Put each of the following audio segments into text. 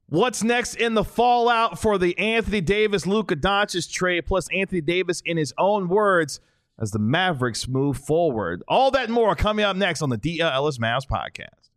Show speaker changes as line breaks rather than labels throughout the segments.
What's next in the fallout for the Anthony Davis-Luka Doncic trade, plus Anthony Davis in his own words as the Mavericks move forward? All that and more coming up next on the DL Ellis Mavs podcast.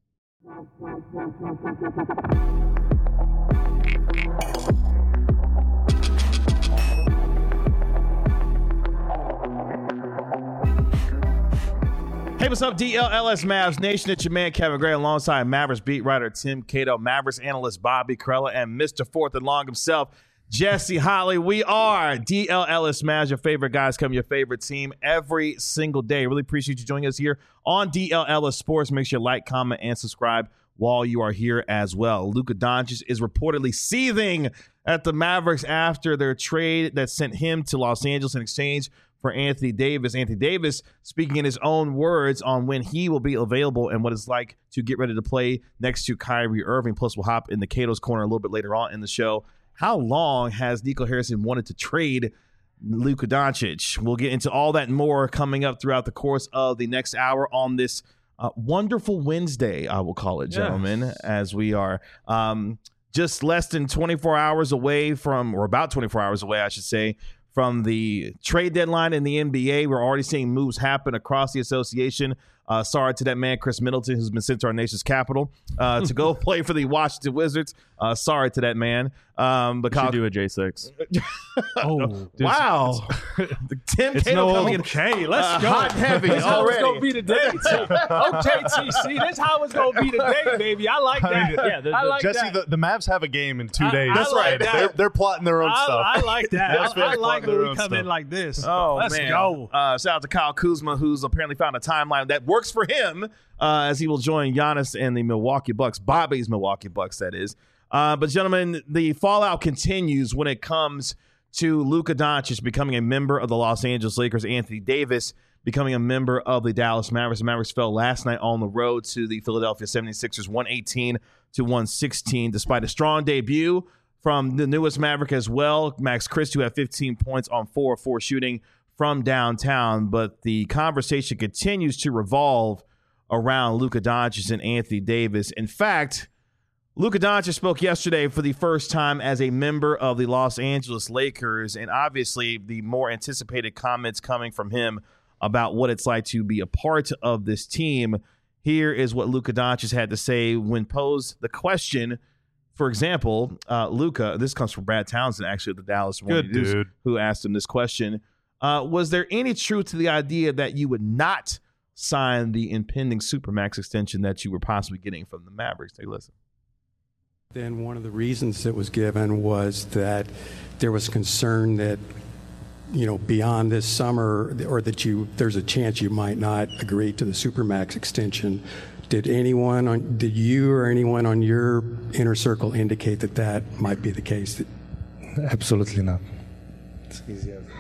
Hey, what's up, DLLS Mavs Nation? It's your man, Kevin Gray, alongside Mavericks beat writer Tim Cato, Mavericks analyst Bobby Karalla, and Mr. Fourth and Long himself, Jesse Holley. We are DLLS Mavs, your favorite guys, come your favorite team every single day. Really appreciate you joining us here on DLLS Sports. Make sure you like, comment, and subscribe while you are here as well. Luka Doncic is reportedly seething at the Mavericks after their trade that sent him to Los Angeles in exchange for Anthony Davis. Anthony Davis speaking in his own words on when he will be available and what it's like to get ready to play next to Kyrie Irving. Plus, we'll hop in the Cato's Corner a little bit later on in the show. How long has Nico Harrison wanted to trade Luka Doncic? We'll get into all that and more coming up throughout the course of the next hour on this wonderful Wednesday, I will call it, gentlemen, as we are just less than 24 hours away from, or about 24 hours away, I should say, from the trade deadline in the NBA. We're already seeing moves happen across the association. Sorry to that man, Chris Middleton, who's been sent to our nation's capital to go play for the Washington Wizards. Sorry to that man. Because
do a J6.
Wow. Tim Cato coming in.
Okay, let's go.
Hot heavy
This how it's
already.
going to be today. Okay, TC. This how it's going to be today, baby. I like that. I like
Jesse,
that.
the Mavs have a game in 2 days.
That's right.
They're plotting their own stuff.
I like that.
Yes,
I
man,
like
their
when we
own
come in
stuff.
like this.
Oh,
let's
man.
go.
Shout out to Kyle Kuzma, who's apparently found a timeline that works for him as he will join Giannis and the Milwaukee Bucks, Bobby's Milwaukee Bucks, that is. But, gentlemen, the fallout continues when it comes to Luka Doncic becoming a member of the Los Angeles Lakers, Anthony Davis becoming a member of the Dallas Mavericks. The Mavericks fell last night on the road to the Philadelphia 76ers, 118-116, despite a strong debut from the newest Maverick as well, Max Christie, who had 15 points on 4 of 4 shooting from downtown. But the conversation continues to revolve around Luka Doncic and Anthony Davis. In fact, Luka Doncic spoke yesterday for the first time as a member of the Los Angeles Lakers, and obviously the more anticipated comments coming from him about what it's like to be a part of this team. Here is what Luka Doncic had to say when posed the question. For example, Luka, this comes from Brad Townsend, actually, of the Dallas Morning News,
dude.
who asked him this question. Was there any truth to the idea that you would not sign the impending Supermax extension that you were possibly getting from the Mavericks? Take a listen.
Then one of the reasons that was given was that there was concern that, beyond this summer, or that there's a chance you might not agree to the Supermax extension. Did you or anyone on your inner circle indicate that might be the case?
Absolutely not. It's easy as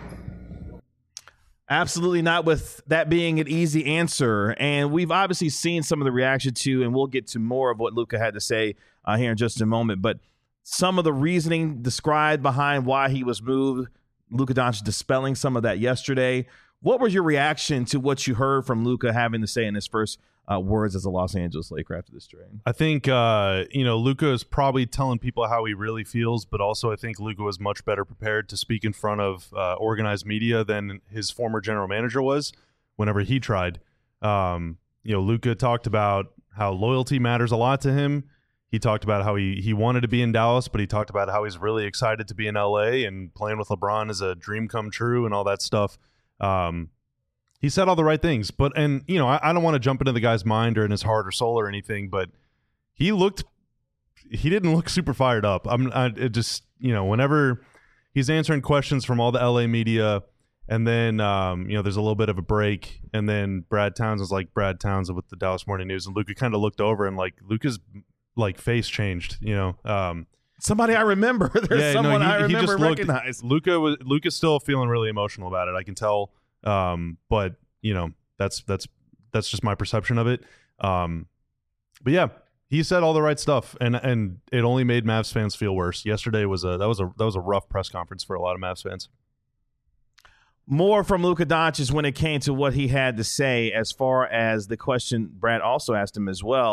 Absolutely not, with that being an easy answer. And we've obviously seen some of the reaction to, and we'll get to more of what Luka had to say here in just a moment. But some of the reasoning described behind why he was moved, Luka Doncic dispelling some of that yesterday. What was your reaction to what you heard from Luka having to say in his first words as a Los Angeles Laker after this trade?
I think, Luka is probably telling people how he really feels, but also I think Luka was much better prepared to speak in front of organized media than his former general manager was whenever he tried. Luka talked about how loyalty matters a lot to him. He talked about how he wanted to be in Dallas, but he talked about how he's really excited to be in LA, and playing with LeBron is a dream come true and all that stuff. He said all the right things, but I don't want to jump into the guy's mind or in his heart or soul or anything, but he didn't look super fired up. Whenever he's answering questions from all the LA media, and then there's a little bit of a break, and then Brad Townsend with the Dallas Morning News, and Luka kind of looked over, and Luka's face changed.
Somebody I remember. There's someone I remember recognize.
Luka's still feeling really emotional about it. I can tell. But that's just my perception of it. But yeah, he said all the right stuff, and it only made Mavs fans feel worse. Yesterday was a rough press conference for a lot of Mavs fans.
More from Luka Doncic when it came to what he had to say as far as the question Brad also asked him as well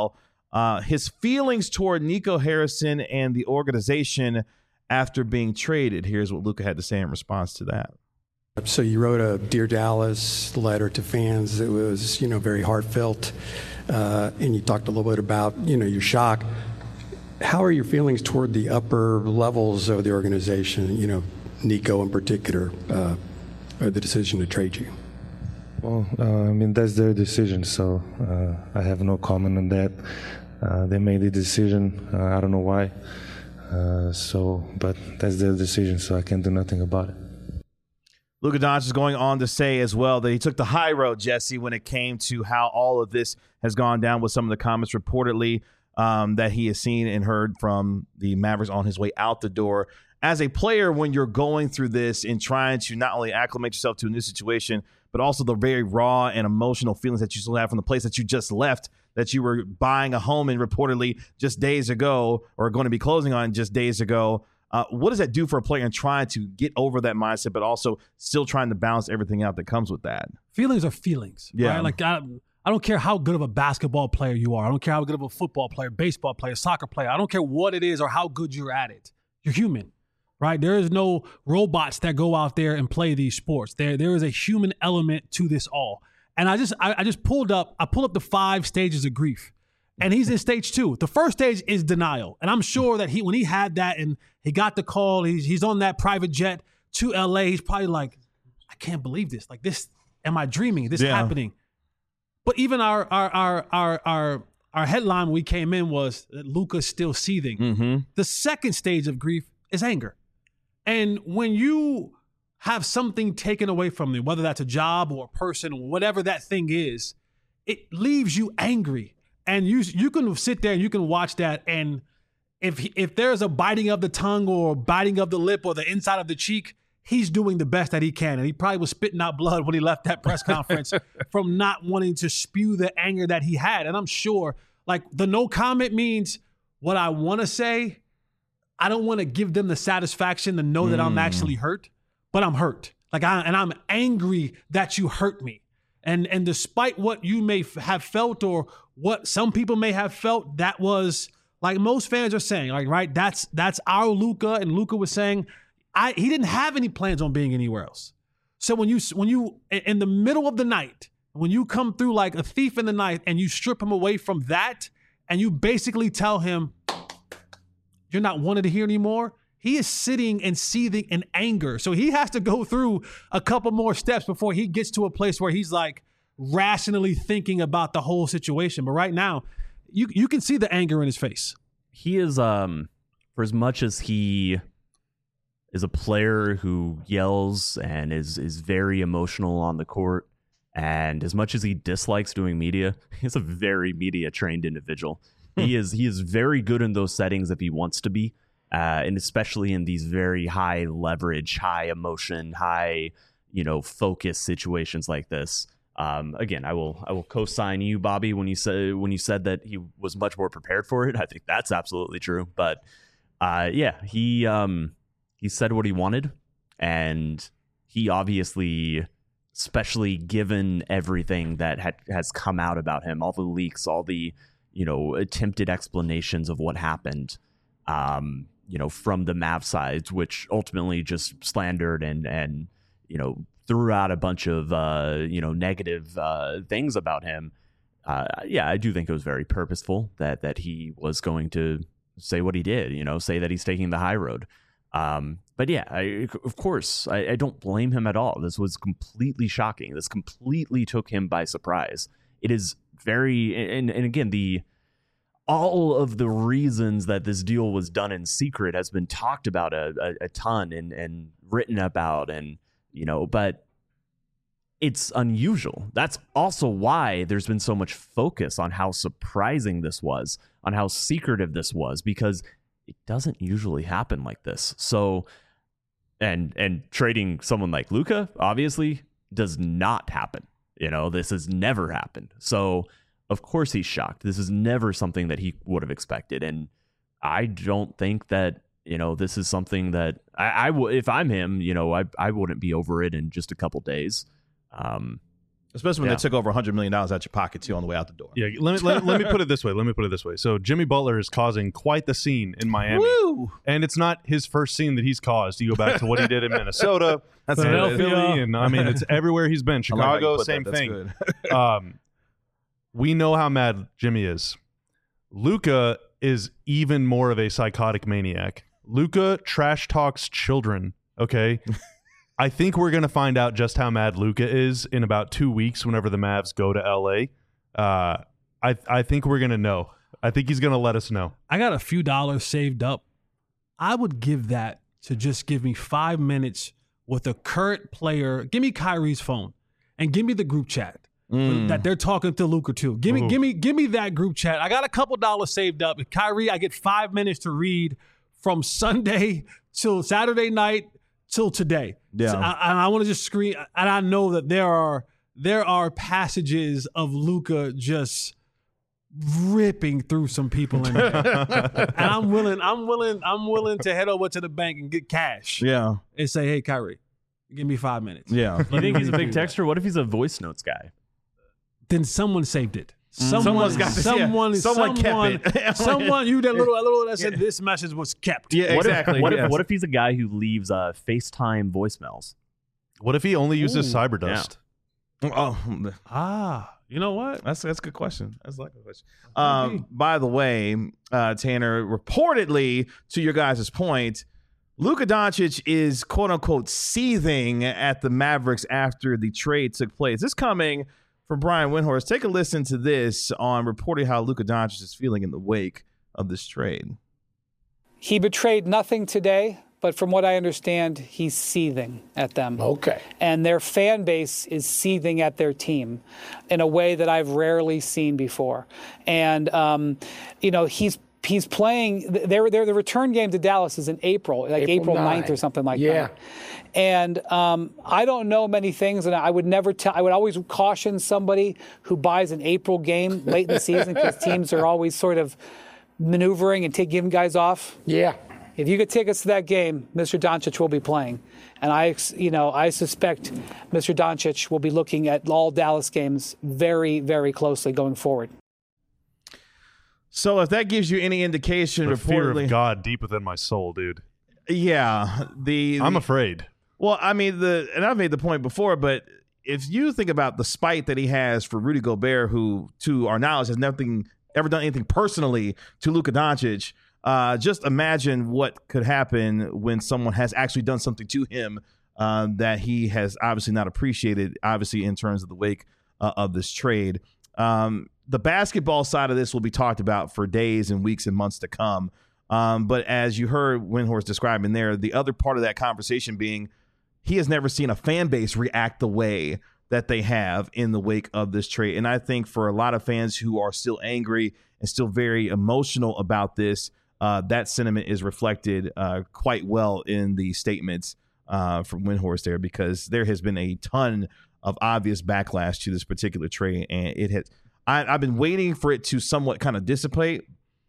his feelings toward Nico Harrison and the organization after being traded. Here's what Luka had to say in response to that.
So you wrote a Dear Dallas letter to fans. It was, very heartfelt, and you talked a little bit about, your shock. How are your feelings toward the upper levels of the organization, Nico in particular, or the decision to trade you?
Well, that's their decision, so I have no comment on that. They made the decision. I don't know why. But that's their decision, so I can't do nothing about it.
Luka Doncic is going on to say as well that he took the high road, Jesse, when it came to how all of this has gone down with some of the comments reportedly that he has seen and heard from the Mavericks on his way out the door. As a player, when you're going through this and trying to not only acclimate yourself to a new situation, but also the very raw and emotional feelings that you still have from the place that you just left, that you were buying a home in reportedly just days ago or going to be closing on just days ago. What does that do for a player in trying to get over that mindset, but also still trying to balance everything out that comes with that?
Feelings are feelings.
Yeah.
Right? Like I don't care how good of a basketball player you are. I don't care how good of a football player, baseball player, soccer player. I don't care what it is or how good you're at it. You're human, right? There is no robots that go out there and play these sports. There is a human element to this all. And I just pulled up the 5 stages of grief. And he's in stage 2. The first stage is denial. And I'm sure that when he had that and he got the call, he's on that private jet to LA, he's probably like, I can't believe this. Like this, am I dreaming? This happening? But even our headline when we came in was that Luka's still seething.
Mm-hmm.
The second stage of grief is anger. And when you have something taken away from you, whether that's a job or a person or whatever that thing is, it leaves you angry. And you can sit there and you can watch that, and if there's a biting of the tongue or biting of the lip or the inside of the cheek, he's doing the best that he can. And he probably was spitting out blood when he left that press conference from not wanting to spew the anger that he had. And I'm sure, like, the no comment means what I want to say. I don't want to give them the satisfaction to know that I'm actually hurt, but I'm hurt. I'm angry that you hurt me. And despite what you may have felt or what some people may have felt, that was, like most fans are saying, like, right, that's our Luka. And Luka was saying he didn't have any plans on being anywhere else. So when you in the middle of the night, when you come through like a thief in the night and you strip him away from that and you basically tell him you're not wanted to hear anymore, he is sitting and seething in anger. So he has to go through a couple more steps before he gets to a place where he's like rationally thinking about the whole situation. But right now, you can see the anger in his face.
He is, for as much as he is a player who yells and is very emotional on the court, and as much as he dislikes doing media, he's a very media-trained individual. He is very good in those settings if he wants to be. And especially in these very high leverage, high emotion, high, focus situations like this. Again, I will co-sign you, Bobby, when you said that he was much more prepared for it. I think that's absolutely true. But he said what he wanted, and he obviously, especially given everything that has come out about him, all the leaks, all the attempted explanations of what happened. From the Mav side, which ultimately just slandered and threw out a bunch of, negative things about him. I do think it was very purposeful that he was going to say what he did, say that he's taking the high road. But yeah, of course, I don't blame him at all. This was completely shocking. This completely took him by surprise. It is very, and again, all of the reasons that this deal was done in secret has been talked about a ton and written about, and but it's unusual. That's also why there's been so much focus on how surprising this was, on how secretive this was, because it doesn't usually happen like this. So, and trading someone like Luka obviously does not happen. This has never happened. So, of course he's shocked. This is never something that he would have expected. And I don't think that, this is something that I if I'm him, I wouldn't be over it in just a couple days.
Especially when
Yeah.
they took over $100 million out your pocket, too, on the way out the door.
Yeah, let me put it this way. So Jimmy Butler is causing quite the scene in Miami.
Woo!
And it's not his first scene that he's caused. You go back to what he did in Minnesota,
That's
and
good.
Philly, and I mean, it's everywhere he's been.
I like how you
Chicago,
put
same
that. That's
thing.
good.
We know how mad Jimmy is. Luka is even more of a psychotic maniac. Luka trash talks children, okay? I think we're going to find out just how mad Luka is in about 2 weeks whenever the Mavs go to L.A. I think we're going to know. I think he's going to let us know.
I got a few dollars saved up. I would give that to just give me 5 minutes with a current player. Give me Kyrie's phone and give me the group chat that they're talking to Luka too. Give me that group chat. I got a couple dollars saved up. With Kyrie, I get 5 minutes to read from Sunday till Saturday night till today.
Yeah.
So I want to just screen, and I know that there are passages of Luka just ripping through some people in there. And I'm willing to head over to the bank and get cash.
Yeah.
And say, hey, Kyrie, give me 5 minutes.
Yeah.
You think he's a big texter? What if he's a voice notes guy?
Then someone saved it.
Someone's got this, yeah. Someone kept it.
Someone, you that little that said this message was kept.
Yeah,
What
exactly.
What if he's a guy who leaves FaceTime voicemails?
What if he only uses cyber dust?
Oh,
You know what?
that's a good question. That's like a good question. By the way, Tanner, reportedly, to your guys' point, Luka Doncic is quote unquote seething at the Mavericks after the trade took place. This coming from Brian Windhorst. Take a listen to this on reporting how Luka Doncic is feeling in the wake of this trade.
He betrayed nothing today, but from what I understand, he's seething at them.
Okay.
And their fan base is seething at their team in a way that I've rarely seen before. And, he's playing. The return game to Dallas is in April, April 9th or something like that. And I don't know many things, and I would never tell. I would always caution somebody who buys an April game late in the season because teams are always sort of maneuvering and giving guys off.
Yeah.
If you could take us to that game, Mr. Doncic will be playing, and I suspect Mr. Doncic will be looking at all Dallas games very, very closely going forward.
So if that gives you any indication,
The fear
reportedly,
of God deep within my soul, dude.
yeah,
I'm afraid.
Well, I mean, and I've made the point before, but if you think about the spite that he has for Rudy Gobert, who, to our knowledge, has ever done anything personally to Luka Doncic, just imagine what could happen when someone has actually done something to him that he has obviously not appreciated, obviously, in terms of the wake of this trade. The basketball side of this will be talked about for days and weeks and months to come. But as you heard Windhorst describing there, the other part of that conversation being he has never seen a fan base react the way that they have in the wake of this trade. And I think for a lot of fans who are still angry and still very emotional about this, that sentiment is reflected quite well in the statements from Windhorst there, because there has been a ton of obvious backlash to this particular trade. And it has, I've been waiting for it to somewhat kind of dissipate.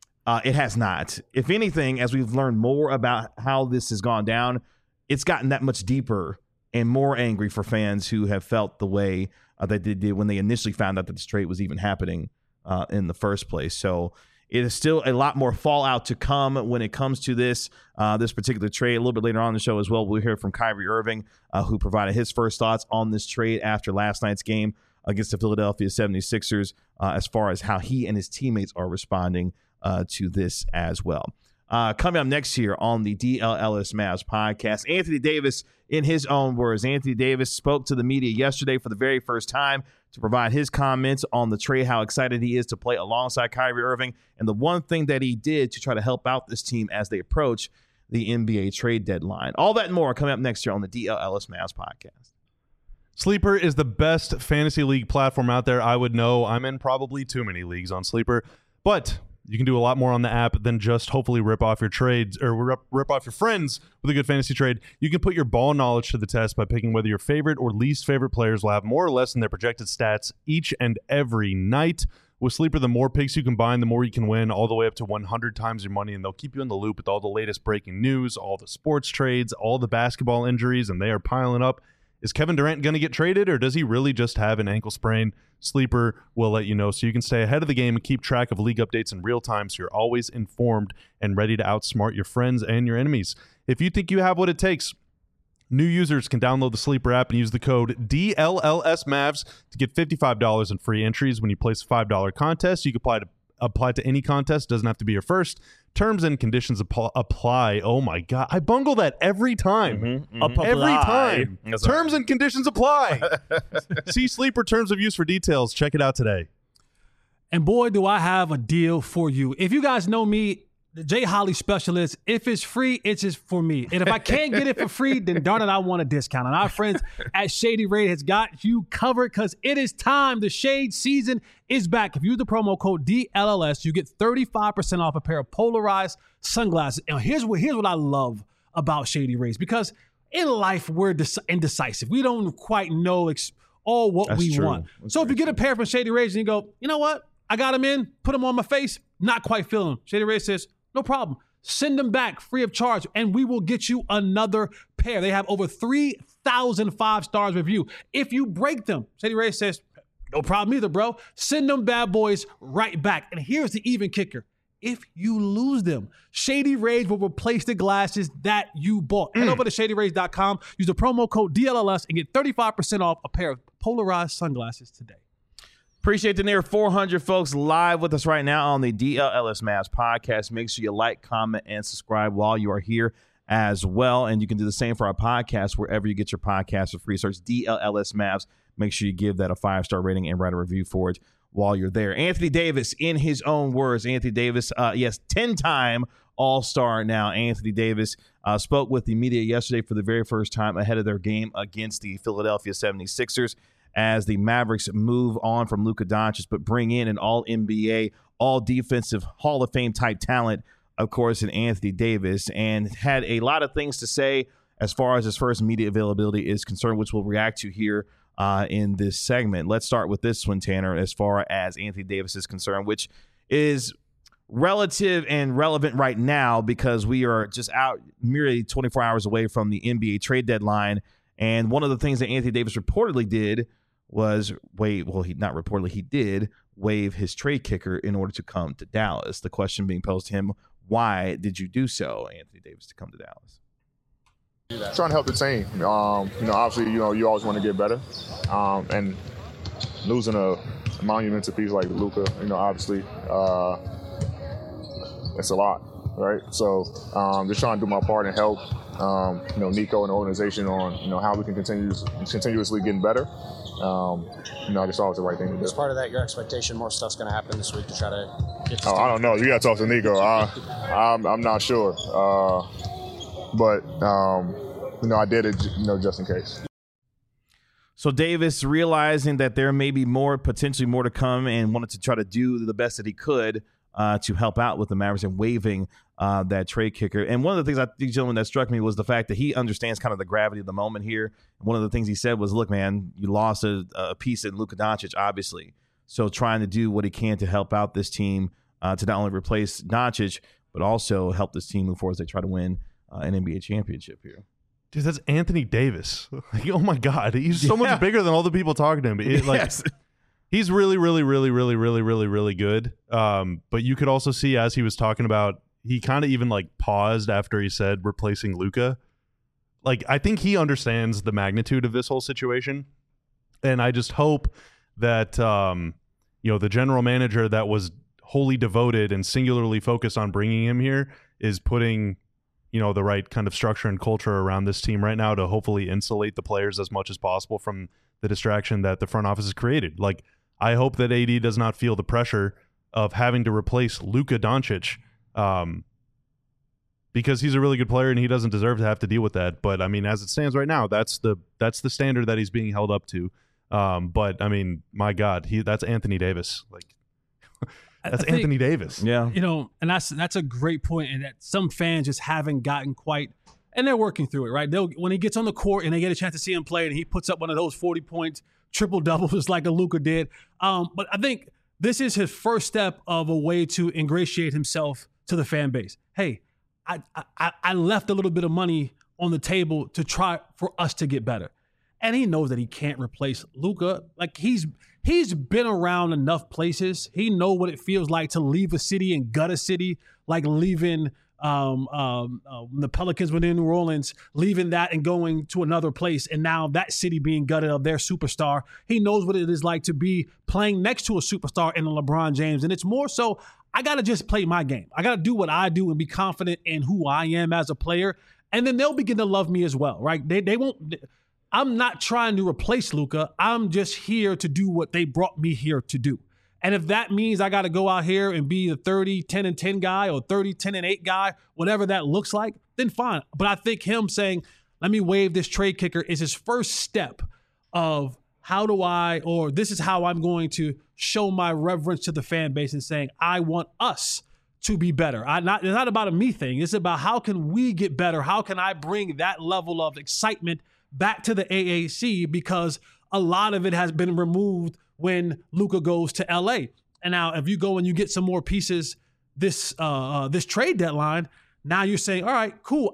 It has not. If anything, as we've learned more about how this has gone down, it's gotten that much deeper and more angry for fans who have felt the way that they did when they initially found out that this trade was even happening in the first place. So it is still a lot more fallout to come when it comes to this particular trade. A little bit later on in the show as well, we'll hear from Kyrie Irving, who provided his first thoughts on this trade after last night's game against the Philadelphia 76ers, as far as how he and his teammates are responding to this as well. Coming up next here on the DLLS Mavs podcast, Anthony Davis, in his own words. Anthony Davis spoke to the media yesterday for the very first time to provide his comments on the trade, how excited he is to play alongside Kyrie Irving, and the one thing that he did to try to help out this team as they approach the NBA trade deadline. All that and more coming up next year on the DLLS Mavs podcast.
Sleeper is the best fantasy league platform out there. I would know. I'm in probably too many leagues on Sleeper, but you can do a lot more on the app than just hopefully rip off your trades or rip off your friends with a good fantasy trade. You can put your ball knowledge to the test by picking whether your favorite or least favorite players will have more or less in their projected stats each and every night. With Sleeper, the more picks you combine, the more you can win, all the way up to 100 times your money, and they'll keep you in the loop with all the latest breaking news, all the sports trades, all the basketball injuries, and they are piling up. Is Kevin Durant going to get traded, or does he really just have an ankle sprain? Sleeper will let you know so you can stay ahead of the game and keep track of league updates in real time so you're always informed and ready to outsmart your friends and your enemies. If you think you have what it takes, new users can download the Sleeper app and use the code DLLSMavs to get $55 in free entries when you place a $5 contest. You can apply to any contest. Doesn't have to be your first. Terms and conditions apply. Oh my God. I bungle that every time. Every time. Terms and conditions apply. See Sleeper terms of use for details. Check it out today.
And boy, do I have a deal for you. If you guys know me, the Jay Holly specialist, if it's free, it's just for me. And if I can't get it for free, then darn it, I want a discount. And our friends at Shady Rays has got you covered because it is time. The shade season is back. If you use the promo code DLLS, you get 35% off a pair of polarized sunglasses. And here's what I love about Shady Rays, because in life, we're indecisive. We don't quite know all what
That's
we
true.
want.
That's
So if
very
you get a pair from Shady Rays and you go, you know what? I got them in, put them on my face, not quite feeling them. Shady Rays says, no problem. Send them back free of charge, and we will get you another pair. They have over 3,000 5-star review. If you break them, Shady Rays says, no problem either, bro. Send them bad boys right back. And here's the even kicker. If you lose them, Shady Rays will replace the glasses that you bought. Head over to ShadyRays.com, use the promo code DLLS, and get 35% off a pair of polarized sunglasses today.
Appreciate the near 400 folks live with us right now on the DLLS Mavs podcast. Make sure you like, comment, and subscribe while you are here as well. And you can do the same for our podcast wherever you get your podcast for free. Search DLLS Mavs. Make sure you give that a 5-star rating and write a review for it while you're there. Anthony Davis, in his own words, Anthony Davis, 10-time All-Star now. Anthony Davis spoke with the media yesterday for the very first time ahead of their game against the Philadelphia 76ers. As the Mavericks move on from Luka Doncic, but bring in an all-NBA, all-defensive Hall of Fame type talent, of course, in Anthony Davis, and had a lot of things to say as far as his first media availability is concerned, which we'll react to here in this segment. Let's start with this one, Tanner, as far as Anthony Davis is concerned, which is relative and relevant right now because we are just out merely 24 hours away from the NBA trade deadline. And one of the things that Anthony Davis reportedly did was he did waive his trade kicker in order to come to Dallas. The question being posed to him, why did you do so, Anthony Davis, to come to Dallas?
Trying to help the team. Obviously, you always want to get better. And losing a monumental piece like Luka, obviously, it's a lot, right? So just trying to do my part and help, Nico and the organization on, how we can continuously getting better. I just thought it was the right thing to do.
As part of that, your expectation, more stuff's going to happen this week to try to get
I don't know. You got to talk to Nico. I'm not sure. But I did it, just in case.
So Davis, realizing that there may be potentially more to come, and wanted to try to do the best that he could to help out with the Mavericks and waiving that trade kicker. And one of the things I think, gentlemen, that struck me was the fact that he understands kind of the gravity of the moment here. One of the things he said was, look, man, you lost a piece in Luka Doncic, obviously. So trying to do what he can to help out this team to not only replace Doncic, but also help this team move forward as they try to win an NBA championship here.
Dude, that's Anthony Davis. Oh, my God. He's so much bigger than all the people talking to him.
Yes.
He's really, really, really, really, really, really, really good. But you could also see as he was talking about, he kind of even paused after he said replacing Luka. I think he understands the magnitude of this whole situation. And I just hope that, the general manager that was wholly devoted and singularly focused on bringing him here is putting, the right kind of structure and culture around this team right now to hopefully insulate the players as much as possible from the distraction that the front office has created. I hope that AD does not feel the pressure of having to replace Luka Doncic because he's a really good player and he doesn't deserve to have to deal with that. But, as it stands right now, that's the standard that he's being held up to. But, my God, that's Anthony Davis. That's Anthony Davis.
Yeah.
And that's a great point, and that some fans just haven't gotten quite, and they're working through it, right? When he gets on the court and they get a chance to see him play and he puts up one of those 40 points, triple doubles like a Luka did. But I think this is his first step of a way to ingratiate himself to the fan base. Hey, I left a little bit of money on the table to try for us to get better. and he knows that he can't replace Luka. Like he's been around enough places. He knows what it feels like to leave a city and gut a city, like leaving the Pelicans were in New Orleans, leaving that and going to another place, and now that city being gutted of their superstar. He knows what it is like to be playing next to a superstar in LeBron James, and it's more so I got to just play my game. I got to do what I do and be confident in who I am as a player, and then they'll begin to love me as well, right? They won't. I'm not trying to replace Luka. I'm just here to do what they brought me here to do. And if that means I got to go out here and be the 30, 10, and 10 guy or 30, 10, and 8 guy, whatever that looks like, then fine. But I think him saying, let me waive this trade kicker is his first step of this is how I'm going to show my reverence to the fan base and saying, I want us to be better. It's not about a me thing. It's about how can we get better? How can I bring that level of excitement back to the AAC, because a lot of it has been removed when Luka goes to LA. And now if you go and you get some more pieces this trade deadline, now you're saying, all right, cool.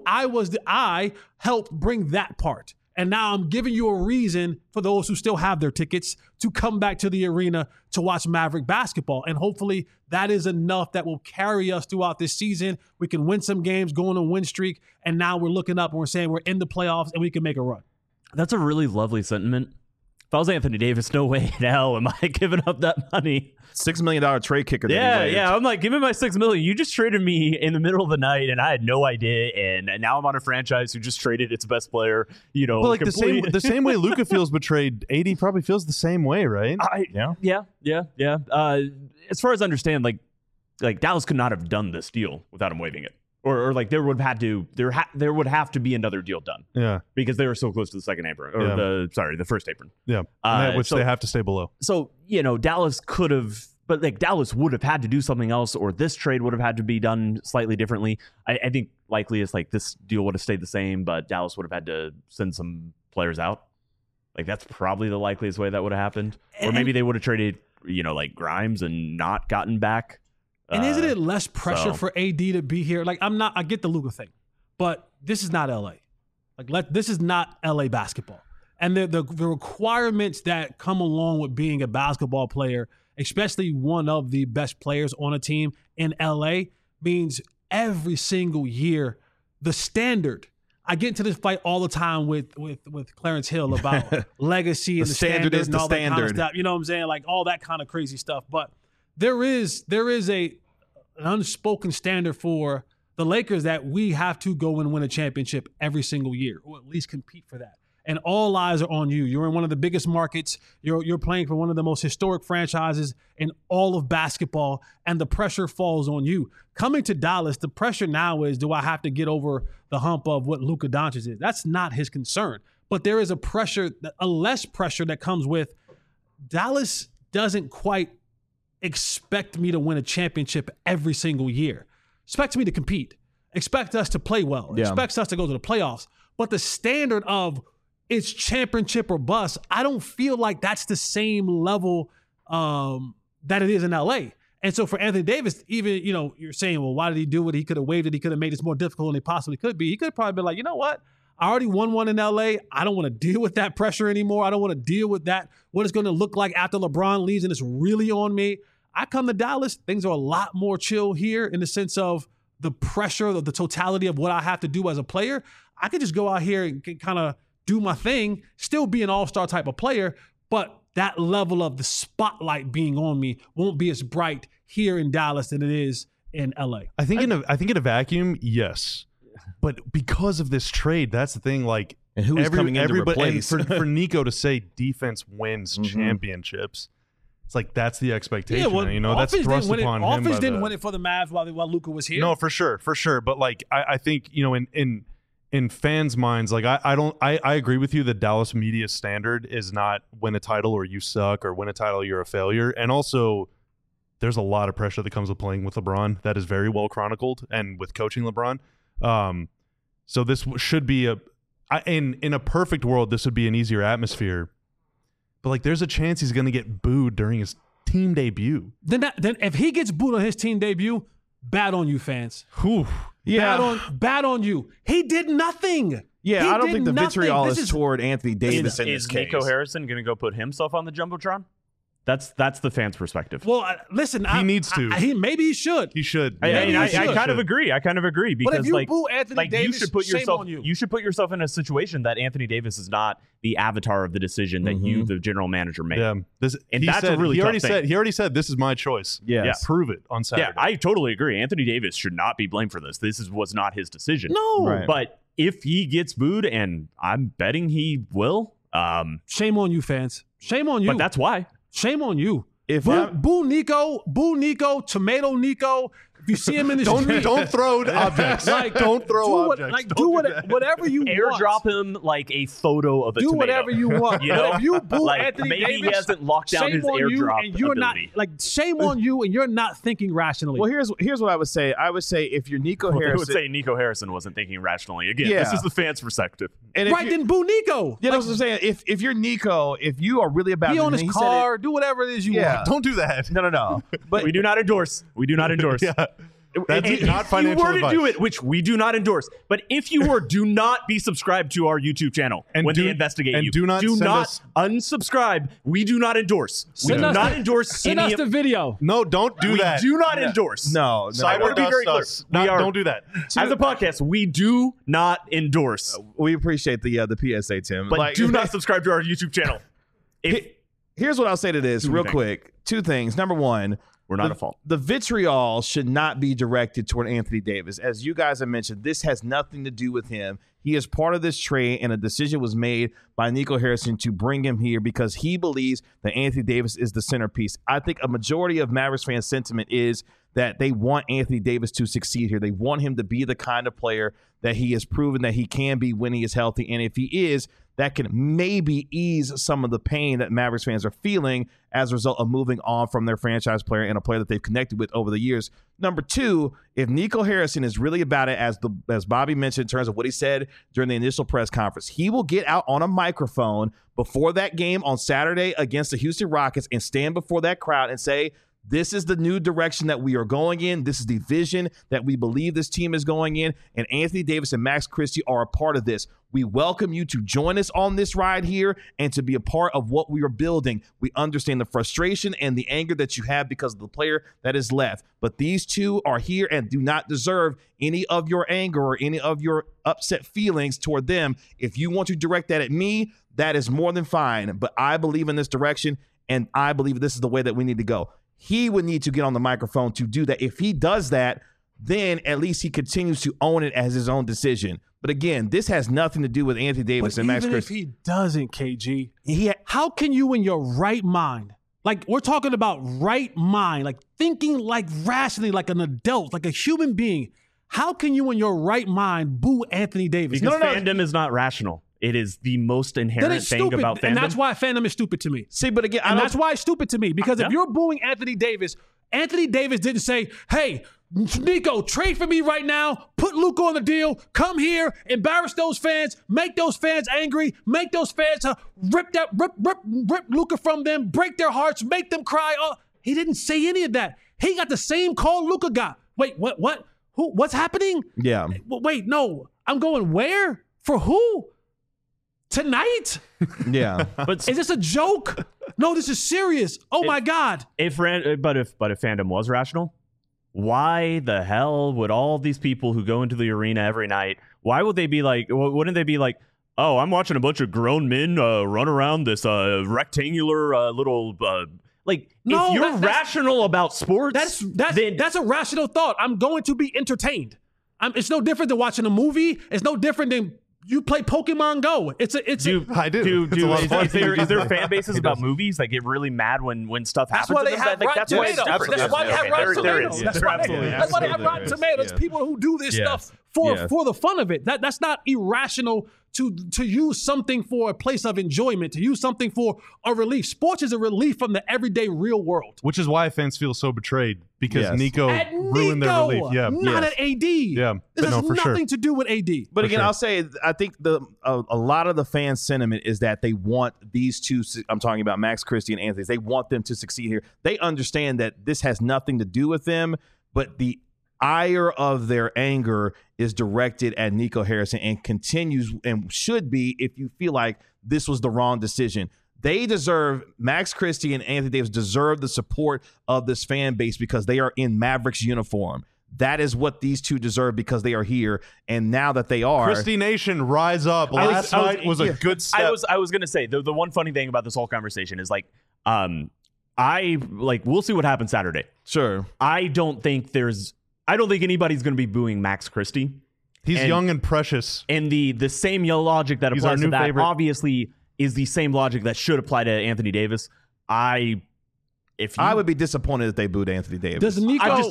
I helped bring that part. And now I'm giving you a reason for those who still have their tickets to come back to the arena to watch Maverick basketball. And hopefully that is enough that will carry us throughout this season. We can win some games, go on a win streak, and now we're looking up and we're saying we're in the playoffs and we can make a run.
That's a really lovely sentiment. If I was Anthony Davis, no way in hell am I giving up that money.
$6 million trade kicker.
Yeah. I'm like, give me my $6 million. You just traded me in the middle of the night, and I had no idea. And now I'm on a franchise who just traded its best player. Well,
like the same way Luka feels betrayed, AD probably feels the same way, right?
Yeah. As far as I understand, like Dallas could not have done this deal without him waiving it. Or like there would have to be another deal done.
Yeah.
Because they were so close to the second apron. Or the first apron.
Yeah. Which they have to stay below.
So, Dallas could have, but like Dallas would have had to do something else, or this trade would have had to be done slightly differently. I think likely it's like this deal would have stayed the same, but Dallas would have had to send some players out. Like that's probably the likeliest way that would have happened. Or maybe they would have traded, like Grimes and not gotten back.
And isn't it less pressure for AD to be here? Like I get the Luka thing, but this is not LA. This is not LA basketball. And the requirements that come along with being a basketball player, especially one of the best players on a team in LA, means every single year the standard. I get into this fight all the time with Clarence Hill about legacy and the standard is and all that kind of stuff. You know what I'm saying? Like all that kind of crazy stuff. But there is an unspoken standard for the Lakers that we have to go and win a championship every single year, or at least compete for that. And all eyes are on you. You're in one of the biggest markets. You're playing for one of the most historic franchises in all of basketball, and the pressure falls on you. Coming to Dallas, the pressure now is, do I have to get over the hump of what Luka Doncic is? That's not his concern. But there is a less pressure that comes with Dallas doesn't quite expect me to win a championship every single year. Expect me to compete. Expect us to play well. Yeah. Expects us to go to the playoffs. But the standard of it's championship or bust, I don't feel like that's the same level that it is in LA. And so for Anthony Davis, even, you're saying, well, why did he do it? He could have waived it. He could have made this more difficult than he possibly could be. He could have probably been like, you know what? I already won one in LA. I don't want to deal with that pressure anymore. I don't want to deal with that. What it's going to look like after LeBron leaves and it's really on me. I come to Dallas, things are a lot more chill here in the sense of the pressure of the totality of what I have to do as a player. I could just go out here and kind of do my thing, still be an all-star type of player, but that level of the spotlight being on me won't be as bright here in Dallas than it is in LA.
I think in a vacuum, yes. But because of this trade, that's the thing. Like,
and who's coming in to replace?
For Nico to say defense wins championships, it's like that's the expectation.
Yeah, well,
that's thrust upon him.
Offense didn't win it for the Mavs while Luka was here.
No, for sure. But like, I think in fans' minds, like I agree with you that Dallas media standard is not win a title or you suck, or win a title you're a failure, and also there's a lot of pressure that comes with playing with LeBron that is very well chronicled, and with coaching LeBron. So this should be in a perfect world, this would be an easier atmosphere. But like, there's a chance he's going to get booed during his team debut.
Then if he gets booed on his team debut, bad on you, fans.
Whew. Yeah.
Bad on you. He did nothing.
Yeah,
He
I don't
did
think the
nothing.
vitriol
This
is toward Anthony Davis in this
Is
case.
Nico Harrison going to go put himself on the Jumbotron? That's the fans' perspective.
Well, listen,
He needs to.
Maybe he should.
He should.
I
should.
kind of agree. I kind of agree because
But if you boo Anthony Davis,
you should put
shame
yourself
on you.
you should put yourself in a situation that Anthony Davis is not the avatar of the decision that you, the general manager, made.
Yeah,
And
he
that's a
said,
really
he
tough
already
thing.
said. He already said this is my choice.
Yes.
Prove it on Saturday.
Yeah, I totally agree. Anthony Davis should not be blamed for this. Was not his decision.
No.
Right.
But if he gets booed, and I'm betting he will,
Shame on you, fans. Shame on you.
but that's why.
Shame on you.
If
Boo Nico, Tomato Nico. If you see him in the street,
don't throw objects. don't throw objects.
do whatever you want.
Airdrop him like a photo of a
Do
tomato.
whatever you want.
You know?
But if you boo
Like,
Anthony
maybe
Davis,
he hasn't locked down
shame
his
on you,
airdrop
and you're
ability.
not shame on you, and you're not thinking rationally.
Well, here's what I would say. I would say if you're Nico
I would
Harrison,
say Nico Harrison wasn't thinking rationally. Again,
Yeah.
this is the fans' perspective.
and if
right,
you-
then boo Nico.
Yeah, that's what I'm saying. If you're Nico, if you are really about
Be
it,
on
and
his
he said
car, do whatever it is you
Yeah.
want.
Don't do that.
No. But
We do not endorse. We do not endorse.
Yeah. That's
If
not financial
you were
advice.
to do it, which we do not endorse, but if you were, do not be subscribed to our YouTube channel
And
when
do-
they investigate
and
you.
do not send us-
unsubscribe. We do not endorse. We
Send
do
us
not
the-
endorse
Send
any
us the
of.
video.
No, don't do
We
that.
do not endorse.
no.
I want to be very clear. We are-
Don't do that.
As a podcast, we do not endorse,
We appreciate the PSA, Tim.
but do not subscribe to our YouTube channel. If
Here's what I'll say to this,
Two
real
things.
quick. Two things. Number one,
we're not at fault.
the vitriol should not be directed toward Anthony Davis. As you guys have mentioned, this has nothing to do with him. He is part of this trade, and a decision was made by Nico Harrison to bring him here because he believes that Anthony Davis is the centerpiece. I think a majority of Mavericks fans' sentiment is that they want Anthony Davis to succeed here. They want him to be the kind of player that he has proven that he can be when he is healthy. And if he is, that can maybe ease some of the pain that Mavericks fans are feeling as a result of moving on from their franchise player and a player that they've connected with over the years. Number two, if Nico Harrison is really about it, as Bobby mentioned in terms of what he said during the initial press conference, he will get out on a microphone before that game on Saturday against the Houston Rockets and stand before that crowd and say, this is the new direction that we are going in. This is the vision that we believe this team is going in. And Anthony Davis and Max Christie are a part of this. We welcome you to join us on this ride here and to be a part of what we are building. We understand the frustration and the anger that you have because of the player that is left. But these two are here and do not deserve any of your anger or any of your upset feelings toward them. If you want to direct that at me, that is more than fine. But I believe in this direction, and I believe this is the way that we need to go. He would need to get on the microphone to do that. If he does that, then at least he continues to own it as his own decision. But again, this has nothing to do with Anthony Davis
But
and Max
even if
Christie.
he doesn't, KG, how can you in your right mind, like we're talking about right mind, like thinking like rationally, like an adult, like a human being, how can you in your right mind boo Anthony Davis?
Because fandom is not rational. It is the most
Then
inherent
it's
thing
stupid,
about fandom.
and that's why fandom is stupid to me.
See, but again,
And that's why it's stupid to me, because if you're booing Anthony Davis didn't say, hey, Nico, trade for me right now, put Luka on the deal, come here, embarrass those fans, make those fans angry, make those fans rip Luka from them, break their hearts, make them cry. Oh, he didn't say any of that. He got the same call Luka got. Wait, what? Who? What's happening?
Yeah.
Wait, no. I'm going where? For who? Tonight?
Yeah.
But
Is this a joke? No, this is serious. Oh my God.
if fandom was rational, why the hell would all these people who go into the arena every night, why would they be like, wouldn't they be like, oh, I'm watching a bunch of grown men run around this rectangular little like,
No,
if you're
that's
rational about sports,
that's a rational thought. I'm going to be entertained. It's no different than watching a movie. It's no different than you play Pokemon Go.
I do. It's a lot of fun.
Is there fan bases about movies that get really mad when stuff happens?
That's why they
to them?
have Rotten
That's why it's
Tomatoes.
different.
That's why they have
Okay,
Rotten
there
Tomatoes.
is.
That's why they have Rotten Tomatoes. People who do this stuff for the fun of it. That's not irrational to use something for a place of enjoyment, to use something for a relief. Sports is a relief from the everyday real world.
Which is why fans feel so betrayed because
Yes.
Nico
At
ruined their
Nico,
relief. Yeah.
not at AD.
Yeah,
This
but no,
has
for sure.
nothing to do with AD.
But again,
sure.
I'll say I think a lot of the fan sentiment is that they want these two. I'm talking about Max Christie and Anthony. They want them to succeed here. They understand that this has nothing to do with them, but the ire of their anger is directed at Nico Harrison and continues and should be if you feel like this was the wrong decision. They deserve, Max Christie and Anthony Davis deserve the support of this fan base because they are in Mavericks uniform. That is what these two deserve because they are here. And now that they are.
Christie Nation, rise up. Last night was a good step.
I was going to say, the one funny thing about this whole conversation is like, we'll see what happens Saturday.
Sure.
I don't think anybody's going to be booing Max Christie.
He's young and precious.
And the same logic that applies to that obviously is the same logic that should apply to Anthony Davis. I would be
disappointed if they booed Anthony Davis.
Does Nico?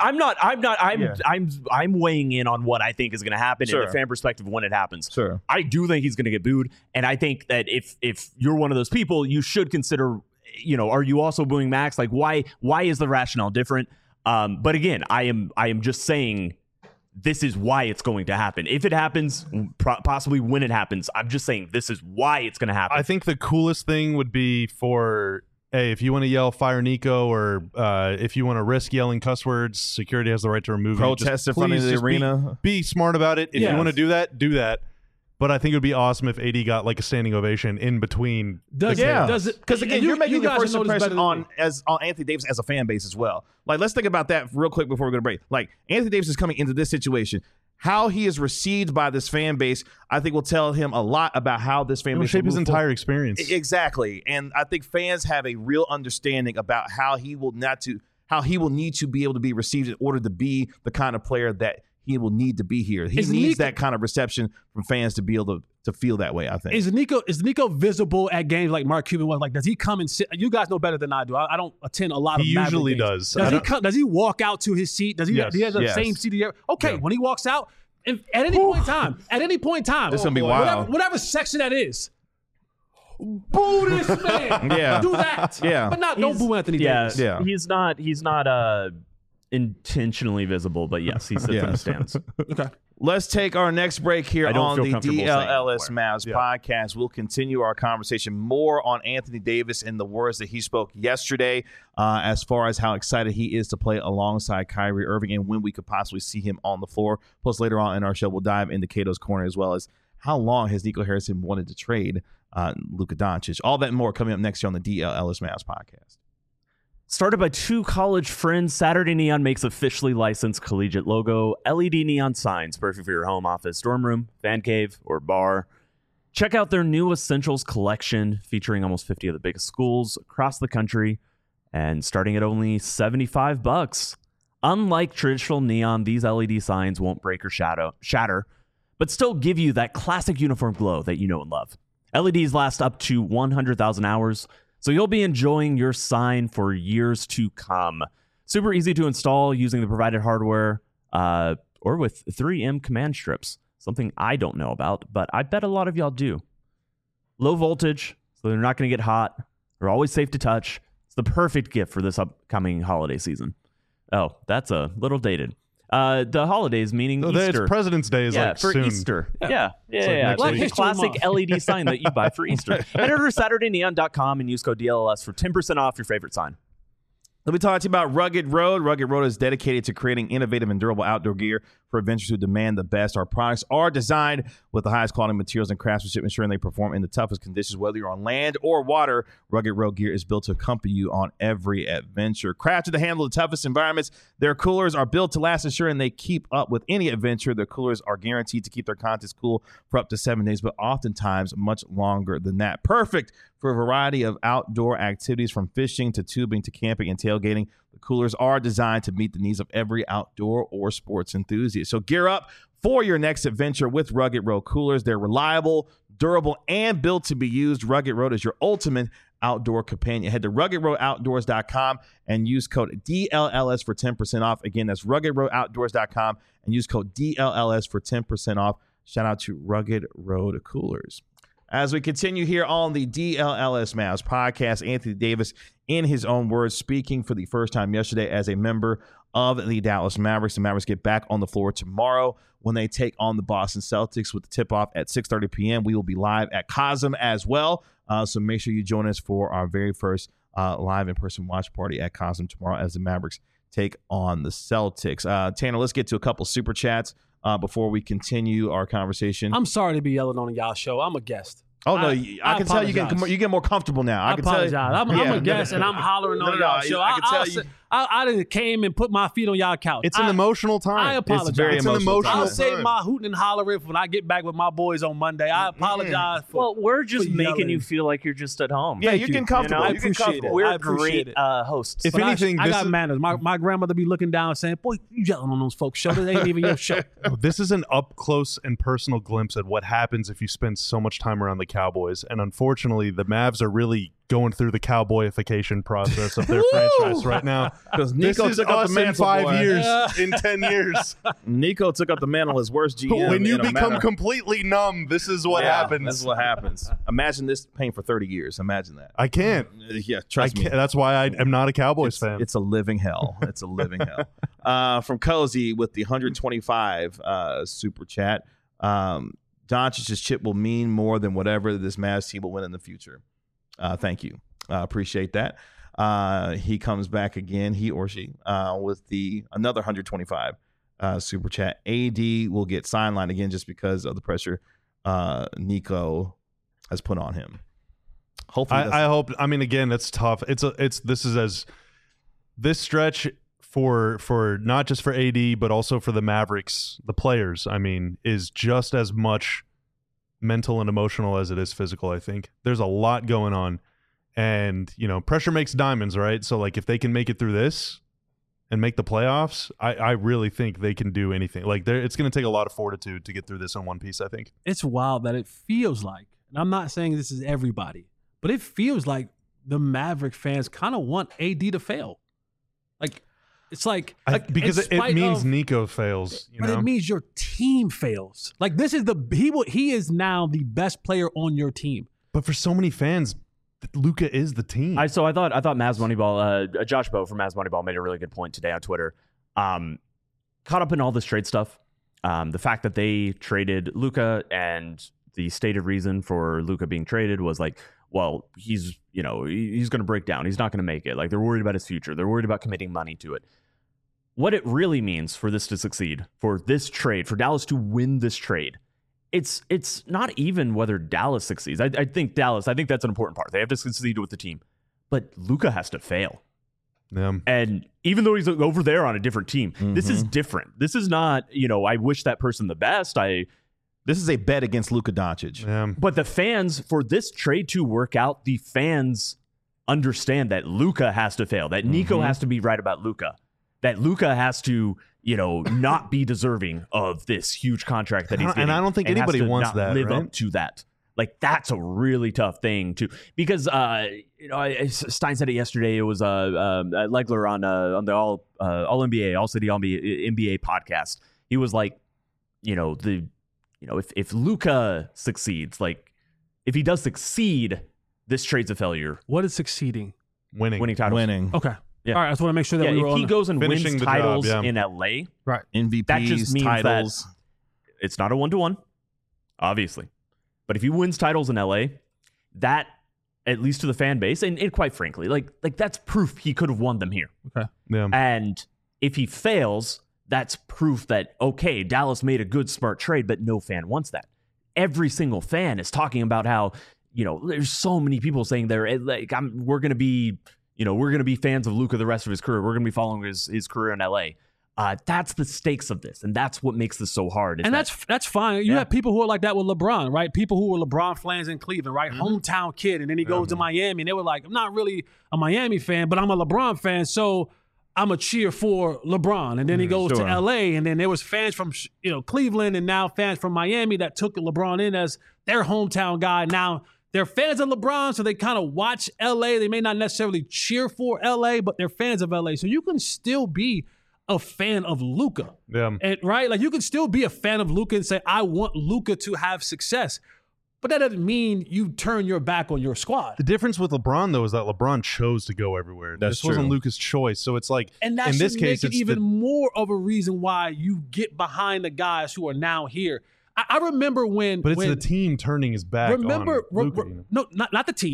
I'm weighing in on what I think is going to happen in the fan perspective when it happens.
Sure.
I do think he's going to get booed, and I think that if you're one of those people, you should consider, are you also booing Max? Like, why is the rationale different? But again, I am just saying this is why it's going to happen. If it happens, possibly when it happens, I'm just saying this is why it's going to happen.
I think the coolest thing would be for, hey, if you want to yell fire Nico, or if you want to risk yelling cuss words, security has the right to remove you.
Protest in front of the arena.
Be smart about it. If you want to do that, do that. But I think it would be awesome if AD got like a standing ovation in between.
Does it? Because again, you're making your first impression on Anthony Davis as a fan base as well. Like, let's think about that real quick before we go to break. Like, Anthony Davis is coming into this situation. How he is received by this fan base, I think, will tell him a lot about how this fan base
shape
will
his entire experience.
Exactly, and I think fans have a real understanding about how he will need to be able to be received in order to be the kind of player that he will need to be here. He needs that kind of reception from fans to be able to feel that way, I think.
Is Nico visible at games like Mark Cuban was? Like, does he come and sit? You guys know better than I do. I don't attend a lot of Maverick
usually
games.
does.
Does he walk out to his seat? Does he have the same seat he ever? Okay, when he walks out, at any point in time,
this is going to be wild.
Whatever section that is, boo this man. Do that.
Yeah.
But don't boo Anthony Davis.
Yeah. He's not intentionally visible, but yes, he sits in the stands.
Okay.
Let's take our next break here on the DLLS Mavs
Yeah.
podcast. We'll continue our conversation more on Anthony Davis and the words that he spoke yesterday as far as how excited he is to play alongside Kyrie Irving and when we could possibly see him on the floor. Plus, later on in our show, we'll dive into Cato's Corner as well as how long has Nico Harrison wanted to trade Luka Doncic. All that and more coming up next year on the DLLS Mavs podcast.
Started by two college friends, Saturday Neon makes officially licensed collegiate logo LED neon signs, perfect for your home office, dorm room, fan cave, or bar. Check out their new Essentials collection featuring almost 50 of the biggest schools across the country and starting at only $75. Unlike traditional neon, these LED signs won't break or shatter, but still give you that classic uniform glow that you know and love. LEDs last up to 100,000 hours, so you'll be enjoying your sign for years to come. Super easy to install using the provided hardware or with 3M command strips, something I don't know about, but I bet a lot of y'all do. Low voltage, so they're not going to get hot. They're always safe to touch. It's the perfect gift for this upcoming holiday season. Oh, that's a little dated. The holidays, meaning Easter.
It's President's Day is
for
soon.
Easter. Yeah.
Like
The classic LED sign that you buy for Easter. Head over to SaturdayNeon.com and use code DLLS for 10% off your favorite sign.
Let me talk to you about Rugged Road. Rugged Road is dedicated to creating innovative and durable outdoor gear for adventurers who demand the best. Our products are designed with the highest quality materials and craftsmanship, ensuring they perform in the toughest conditions, whether you're on land or water. Rugged Road gear is built to accompany you on every adventure. Crafted to handle the toughest environments, their coolers are built to last, ensuring they keep up with any adventure. Their coolers are guaranteed to keep their contents cool for up to 7 days, but oftentimes much longer than that. Perfect for a variety of outdoor activities, from fishing to tubing to camping and tailgating. The coolers are designed to meet the needs of every outdoor or sports enthusiast. So gear up for your next adventure with Rugged Road coolers. They're reliable, durable, and built to be used. Rugged Road is your ultimate outdoor companion. Head to ruggedroadoutdoors.com and use code DLLS for 10% off. Again, that's ruggedroadoutdoors.com and use code DLLS for 10% off. Shout out to Rugged Road Coolers. As we continue here on the DLLS Mavs podcast, Anthony Davis, in his own words, speaking for the first time yesterday as a member of the Dallas Mavericks. The Mavericks get back on the floor tomorrow when they take on the Boston Celtics with the tip-off at 6:30 p.m. We will be live at COSM as well, so make sure you join us for our very first live in-person watch party at COSM tomorrow as the Mavericks take on the Celtics. Tanner, let's get to a couple super chats before we continue our conversation.
I'm sorry to be yelling on y'all show. I'm a guest.
Oh, no, I can tell you get more comfortable now.
I apologize. I'm a guest, and I'm hollering on y'all show.
I can tell you.
I didn't came and put my feet on y'all couch.
It's an emotional time.
I apologize.
It's very emotional
I'll
time.
save my hooting and hollering for when I get back with my boys on Monday. I apologize for.
Well, we're just
for
making
yelling.
you feel like you're just at home.
Yeah, you're getting comfortable.
I
You're getting
appreciate
comfortable.
it. I
We're
appreciate
great
it.
hosts.
If
But
anything,
I
this
got
is,
manners. My grandmother be looking down saying, "Boy, you yelling on those folks' show. This ain't even your show."
this is an up close and personal glimpse at what happens if you spend so much time around the Cowboys. And unfortunately, the Mavs are really going through the cowboyification process of their franchise right now.
Because
This
Nico
is
took up
us
the mantle,
in 5
boy.
years, in 10 years.
Nico took up the mantle as worst GM.
But when you
in a
become
matter-
completely numb, this is what happens.
This is what happens. Imagine this pain for 30 years. Imagine that.
I can't.
Yeah,
I
trust me.
can't. That's why I am not a Cowboys fan.
It's a living hell. It's a living hell. From Cozy with the 125 super chat. Doncic's chip will mean more than whatever this Mavs team will win in the future. Thank you. Appreciate that. He comes back again, he or she, with the another 125 super chat. AD will get sidelined again just because of the pressure Nico has put on him. Hopefully,
I hope. I mean, again, it's tough. This stretch for not just for AD but also for the Mavericks, the players. I mean, is just as much mental and emotional as it is physical. I think there's a lot going on, and pressure makes diamonds, right? So like, if they can make it through this and make the playoffs, I really think they can do anything. Like, it's going to take a lot of fortitude to get through this in one piece, I think.
It's wild that it feels like, and I'm not saying this is everybody, but it feels like the Maverick fans kind of want AD to fail. Like, it's like
because
in
it
spite
means
of-
Nico fails.
But it means your team fails. Like, this is he is now the best player on your team.
But for so many fans, Luka is the team.
I thought Mavs Moneyball, Josh Bowe from Mavs Moneyball made a really good point today on Twitter. Caught up in all this trade stuff. The fact that they traded Luka, and the stated reason for Luka being traded was like, well, he's going to break down. He's not going to make it. Like, they're worried about his future. They're worried about committing money to it. What it really means for this to succeed, for this trade, for Dallas to win this trade, it's not even whether Dallas succeeds. I think that's an important part. They have to succeed with the team. But Luka has to fail.
Yeah.
And even though he's over there on a different team, this is different. This is not, I wish that person the best.
This is a bet against Luka Doncic.
Yeah.
But the fans, for this trade to work out, the fans understand that Luka has to fail, that Nico has to be right about Luka, that Luka has to, not be deserving of this huge contract that he's getting.
And I don't think
and
anybody
has to
wants
not
that,
live
right?
up to that. Like, that's a really tough thing to, because Stein said it yesterday. It was Legler on the All NBA, All City NBA podcast. He was like, if Luka succeeds, like, if he does succeed, this trade's a failure.
What is succeeding?
Winning titles.
Winning.
Okay.
Yeah.
All right. I just want to make sure that
Yeah,
we were
if he goes and
finishing
wins
the
titles
job, yeah.
in LA,
right.
MVPs,
that just means
titles.
that it's not a 1-to-1, obviously. But if he wins titles in LA, that, at least to the fan base, and quite frankly, like that's proof he could have won them here.
Okay.
Yeah.
And if he fails, that's proof that, okay, Dallas made a good, smart trade, but no fan wants that. Every single fan is talking about how, there's so many people saying we're going to be fans of Luka the rest of his career. We're going to be following his career in LA. That's the stakes of this, and that's what makes this so hard.
And that's fine. You have people who are like that with LeBron, right? People who were LeBron fans in Cleveland, right? Hometown kid, and then he goes to Miami, and they were like, I'm not really a Miami fan, but I'm a LeBron fan, so I'm a cheer for LeBron. And then he goes to LA, and then there was fans from Cleveland, and now fans from Miami that took LeBron in as their hometown guy. Now they're fans of LeBron, so they kind of watch LA. They may not necessarily cheer for LA, but they're fans of LA. So you can still be a fan of Luka.
Yeah.
And right? Like, you can still be a fan of Luka and say, I want Luka to have success. But that doesn't mean you turn your back on your squad.
The difference with LeBron, though, is that LeBron chose to go everywhere.
That's
this wasn't
true.
Luka's choice. So it's like,
And that
in
should
this case,
make it
it's
even more of a reason why you get behind the guys who are now here. I remember when...
But it's the team turning his back on Luka.
No, not the team.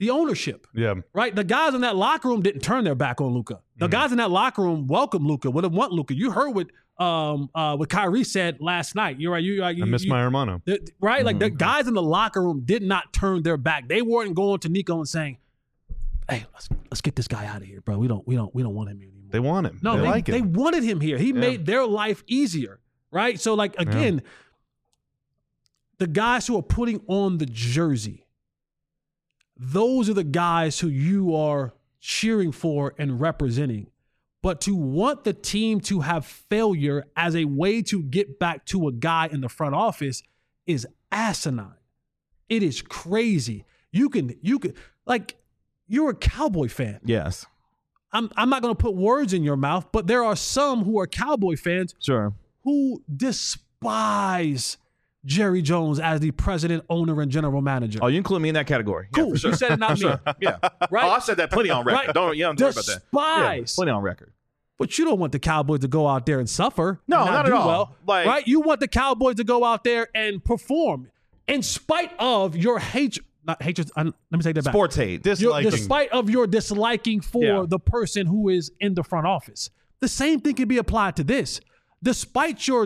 the ownership.
Yeah.
Right? The guys in that locker room didn't turn their back on Luka. The guys in that locker room welcomed Luka, would have want Luka. You heard what Kyrie said last night. You're right.
I miss my hermano.
Right? Like the guys in the locker room did not turn their back. They weren't going to Nico and saying, "Hey, let's get this guy out of here, bro. We don't want him here anymore."
They want him.
No,
they like him.
They wanted him here. He made their life easier. Right? So like again, the guys who are putting on the jersey, those are the guys who you are cheering for and representing. But to want the team to have failure as a way to get back to a guy in the front office is asinine. It is crazy. You can like, you're a Cowboy fan.
Yes.
I'm not going to put words in your mouth, but there are some who are Cowboy fans who despise Jerry Jones as the president, owner, and general manager.
Oh, you include me in that category.
Cool.
Yeah, for sure.
You said it, not me.
Yeah.
Right?
Oh, I've said that plenty on record.
Right.
Don't worry about that. Yeah, plenty on record.
But you don't want the Cowboys to go out there and suffer.
No,
and
not
do
at all.
Well,
Like,
right? You want the Cowboys to go out there and perform in spite of your hatred. Not hatred. Let me take that back.
Sports hate.
Despite of your disliking for the person who is in the front office. The same thing can be applied to this. Despite your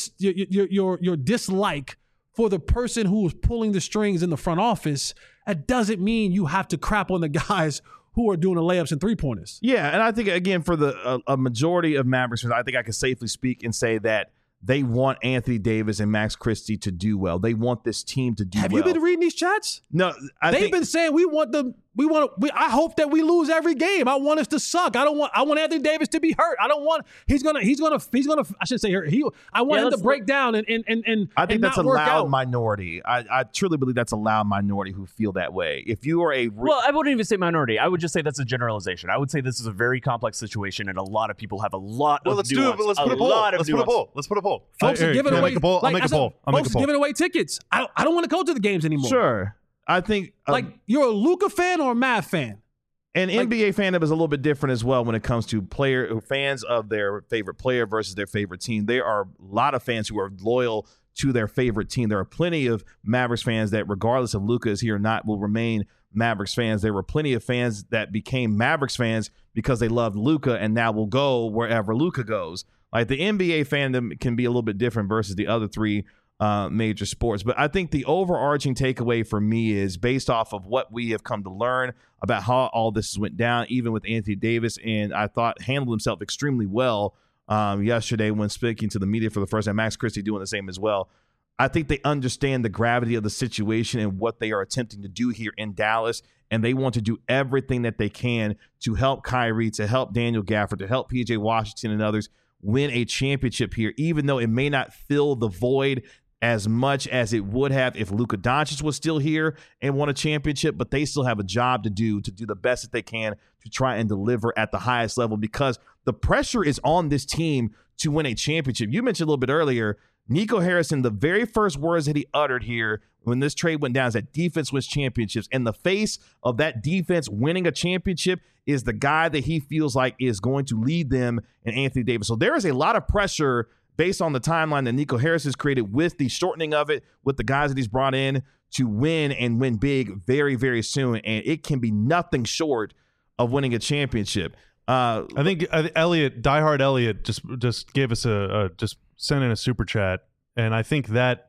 dislike for the person who is pulling the strings in the front office, that doesn't mean you have to crap on the guys who are doing the layups and three-pointers.
Yeah, and I think, again, for a majority of Mavericks fans, I think I can safely speak and say that they want Anthony Davis and Max Christie to do well. They want this team to do well.
Have you been reading these chats?
No,
they've been saying I hope that we lose every game. I want us to suck. I want Anthony Davis to be hurt. I don't want he's gonna I should say hurt. I want him to break down and
I think that's a
loud
loud minority. I truly believe that's a loud minority who feel that way. If you are
well, I wouldn't even say minority. I would just say that's a generalization. I would say this is a very complex situation, and a lot of people have a lot of
let's
nuance.
do it. Let's put a poll. Let's put a poll.
Folks are giving away.
I'll make a poll.
Folks are giving away tickets. I don't want to go to the games anymore.
Sure. I think
you're a Luka fan or a Mav fan.
And NBA fandom is a little bit different as well when it comes to fans of their favorite player versus their favorite team. There are a lot of fans who are loyal to their favorite team. There are plenty of Mavericks fans that, regardless of Luka is here or not, will remain Mavericks fans. There were plenty of fans that became Mavericks fans because they loved Luka and now will go wherever Luka goes. Like, the NBA fandom can be a little bit different versus the other three major sports. But I think the overarching takeaway for me is based off of what we have come to learn about how all this went down, even with Anthony Davis, and I thought handled himself extremely well yesterday when speaking to the media for the first time. Max Christie doing the same as well. I think they understand the gravity of the situation and what they are attempting to do here in Dallas, and they want to do everything that they can to help Kyrie, to help Daniel Gafford, to help PJ Washington and others win a championship here, even though it may not fill the void as much as it would have if Luka Doncic was still here and won a championship, but they still have a job to do the best that they can to try and deliver at the highest level, because the pressure is on this team to win a championship. You mentioned a little bit earlier, Nico Harrison, the very first words that he uttered here when this trade went down is that defense wins championships. And the face of that defense winning a championship is the guy that he feels like is going to lead them in Anthony Davis. So there is a lot of pressure based on the timeline that Nico Harris has created with the shortening of it, with the guys that he's brought in to win and win big very, very soon. And it can be nothing short of winning a championship.
I think Elliot, diehard Elliot, just gave us just sent in a super chat, and I think that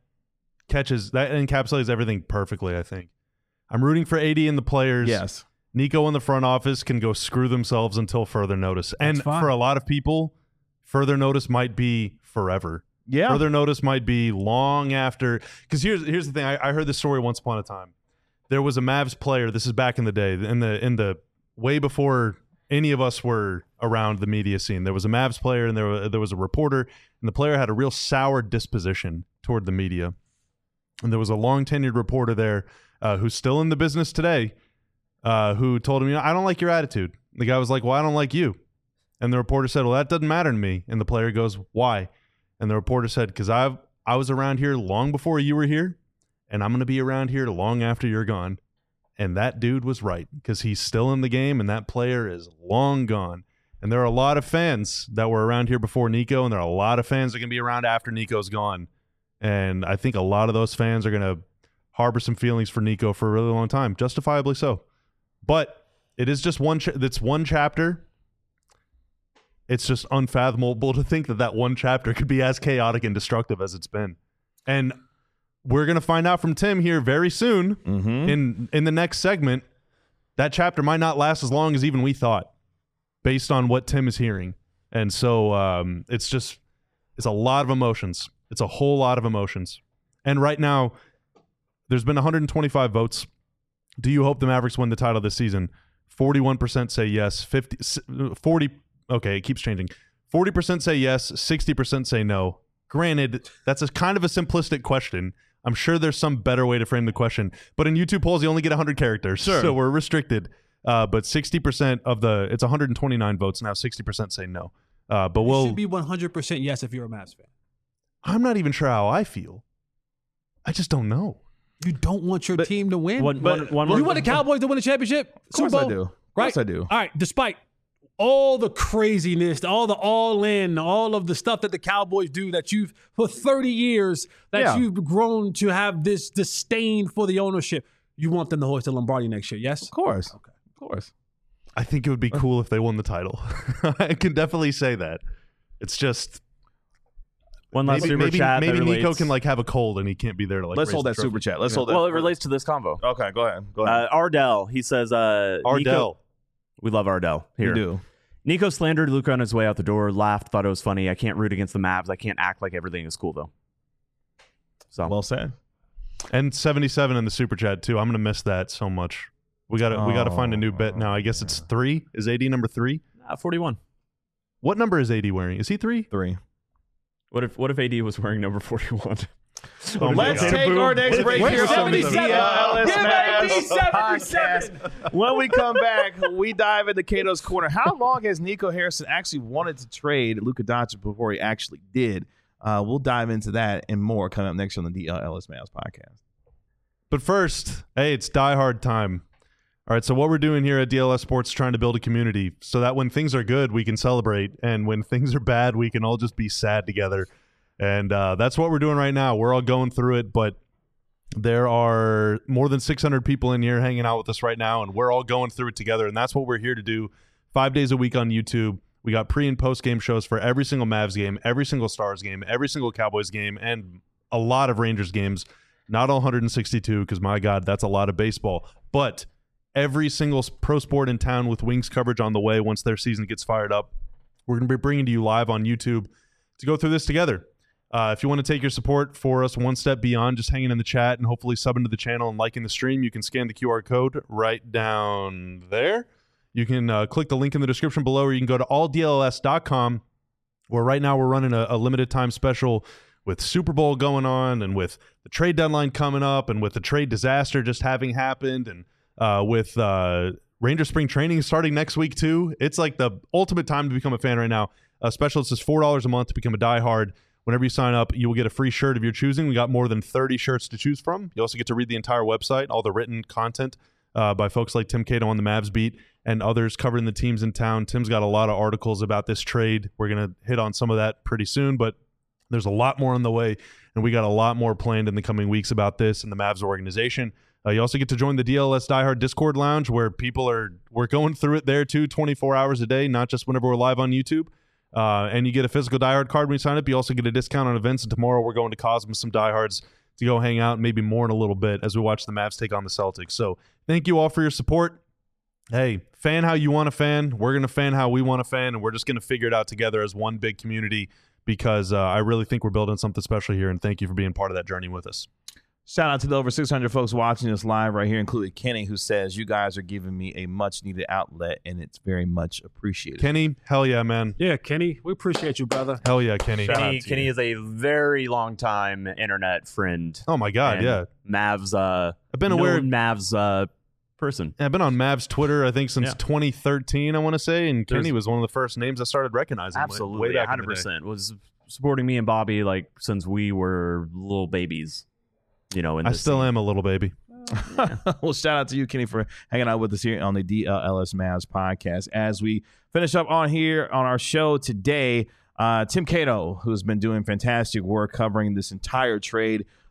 encapsulates everything perfectly. I think I'm rooting for AD and the players.
Yes,
Nico in the front office can go screw themselves until further notice. And for a lot of people, further notice might be forever.
Yeah,
further notice might be long after. Because here's the thing. I heard this story once upon a time. There was a Mavs player. This is back in the day, in the way before any of us were around the media scene. There was a Mavs player, and there was a reporter, and the player had a real sour disposition toward the media. And there was a long-tenured reporter there who's still in the business today who told him, I don't like your attitude. The guy was like, well, I don't like you. And the reporter said, well, that doesn't matter to me. And the player goes, why? And the reporter said, because I was around here long before you were here, and I'm going to be around here long after you're gone. And that dude was right, because he's still in the game, and that player is long gone. And there are a lot of fans that were around here before Nico, and there are a lot of fans that can be around after Nico's gone. And I think a lot of those fans are going to harbor some feelings for Nico for a really long time, justifiably so. But it is just it's one chapter. It's just unfathomable to think that one chapter could be as chaotic and destructive as it's been. And we're going to find out from Tim here very soon in the next segment. That chapter might not last as long as even we thought, based on what Tim is hearing. And so it's a lot of emotions. It's a whole lot of emotions. And right now, there's been 125 votes. Do you hope the Mavericks win the title this season? 41% say yes. 40. Okay, it keeps changing. 40% say yes. 60% say no. Granted, that's kind of a simplistic question. I'm sure there's some better way to frame the question. But in YouTube polls, you only get 100 characters. Sure. So we're restricted. But 60% of it's 129 votes now. 60% say no. But
it should be 100% yes if you're a Mavs fan.
I'm not even sure how I feel. I just don't know.
You don't want your team to win?
You want
the Cowboys to win a championship?
Of course I do.
Right?
Of course I do.
All right, despite all the craziness, all the all-in, all of the stuff that the Cowboys do that for 30 years, you've grown to have this disdain for the ownership, you want them to hoist the Lombardi next year, yes?
Of course. Okay. Of course.
I think it would be cool if they won the title. I can definitely say that. It's just...
One last super chat.
Maybe Nico can have a cold and he can't be there to
Let's hold that super chat. Let's hold that.
Well, it relates to this convo.
Okay, go ahead.
Ardell, he says,
Ardell.
Nico, we love Ardell here.
We do.
Nico slandered Luka on his way out the door, laughed, thought it was funny. I can't root against the Mavs. I can't act like everything is cool, though. So
well said.
And 77 in the super chat, too. I'm going to miss that so much. We got to find a new bet now. I guess it's 3. Is AD number 3?
41.
What number is AD wearing? Is he 3?
3.
What if AD was wearing number 41?
Let's take our next break here on the DLS Podcast. When we come back, we dive into Cato's Corner. How long has Nico Harrison actually wanted to trade Luka Doncic before he actually did? We'll dive into that and more coming up next on the DLS Mavs Podcast.
But first, hey, it's Die Hard time. All right, so what we're doing here at DLS Sports is trying to build a community so that when things are good, we can celebrate, and when things are bad, we can all just be sad together. And that's what we're doing right now. We're all going through it, but there are more than 600 people in here hanging out with us right now, and we're all going through it together, and that's what we're here to do 5 days a week on YouTube. We got pre- and post-game shows for every single Mavs game, every single Stars game, every single Cowboys game, and a lot of Rangers games. Not all 162, because, my God, that's a lot of baseball. But every single pro sport in town with Wings coverage on the way once their season gets fired up. We're going to be bringing to you live on YouTube to go through this together. If you want to take your support for us one step beyond just hanging in the chat and hopefully subbing to the channel and liking the stream, you can scan the QR code right down there. You can click the link in the description below, or you can go to alldls.com, where right now we're running a limited time special with Super Bowl going on and with the trade deadline coming up and with the trade disaster just having happened and with Ranger spring training starting next week too. It's like the ultimate time to become a fan right now. Special, it's just $4 a month to become a diehard. Whenever you sign up, you will get a free shirt of your choosing. We got more than 30 shirts to choose from. You also get to read the entire website, all the written content by folks like Tim Cato on the Mavs beat and others covering the teams in town. Tim's got a lot of articles about this trade. We're going to hit on some of that pretty soon, but there's a lot more on the way, and we got a lot more planned in the coming weeks about this and the Mavs organization. You also get to join the DLS Diehard Discord Lounge, where we're going through it there too, 24 hours a day, not just whenever we're live on YouTube. And you get a physical diehard card when you sign up. You also get a discount on events. And tomorrow we're going to Cosmos, some diehards to go hang out, maybe more in a little bit as we watch the Mavs take on the Celtics. So thank you all for your support. Hey, fan how you want to fan. We're going to fan how we want to fan, and we're just going to figure it out together as one big community because I really think we're building something special here, and thank you for being part of that journey with us.
Shout out to the over 600 folks watching us live right here, including Kenny, who says, you guys are giving me a much-needed outlet, and it's very much appreciated.
Kenny, hell yeah, man.
Yeah, Kenny, we appreciate you, brother.
Hell yeah, Kenny.
Kenny is a very long-time internet friend.
Oh, my God, yeah.
Mavs,
I've been aware of
Mavs person.
I've been on Mavs Twitter, I think, since 2013, I want to say, and Kenny was one of the first names I started recognizing.
Absolutely,
way back
100%. Was supporting me and Bobby since we were little babies.
I still am a little baby.
Well, shout out to you, Kenny, for hanging out with us here on the DLS Mavs podcast. As we finish up on our show today, Tim Cato, who's been doing fantastic work covering this entire trade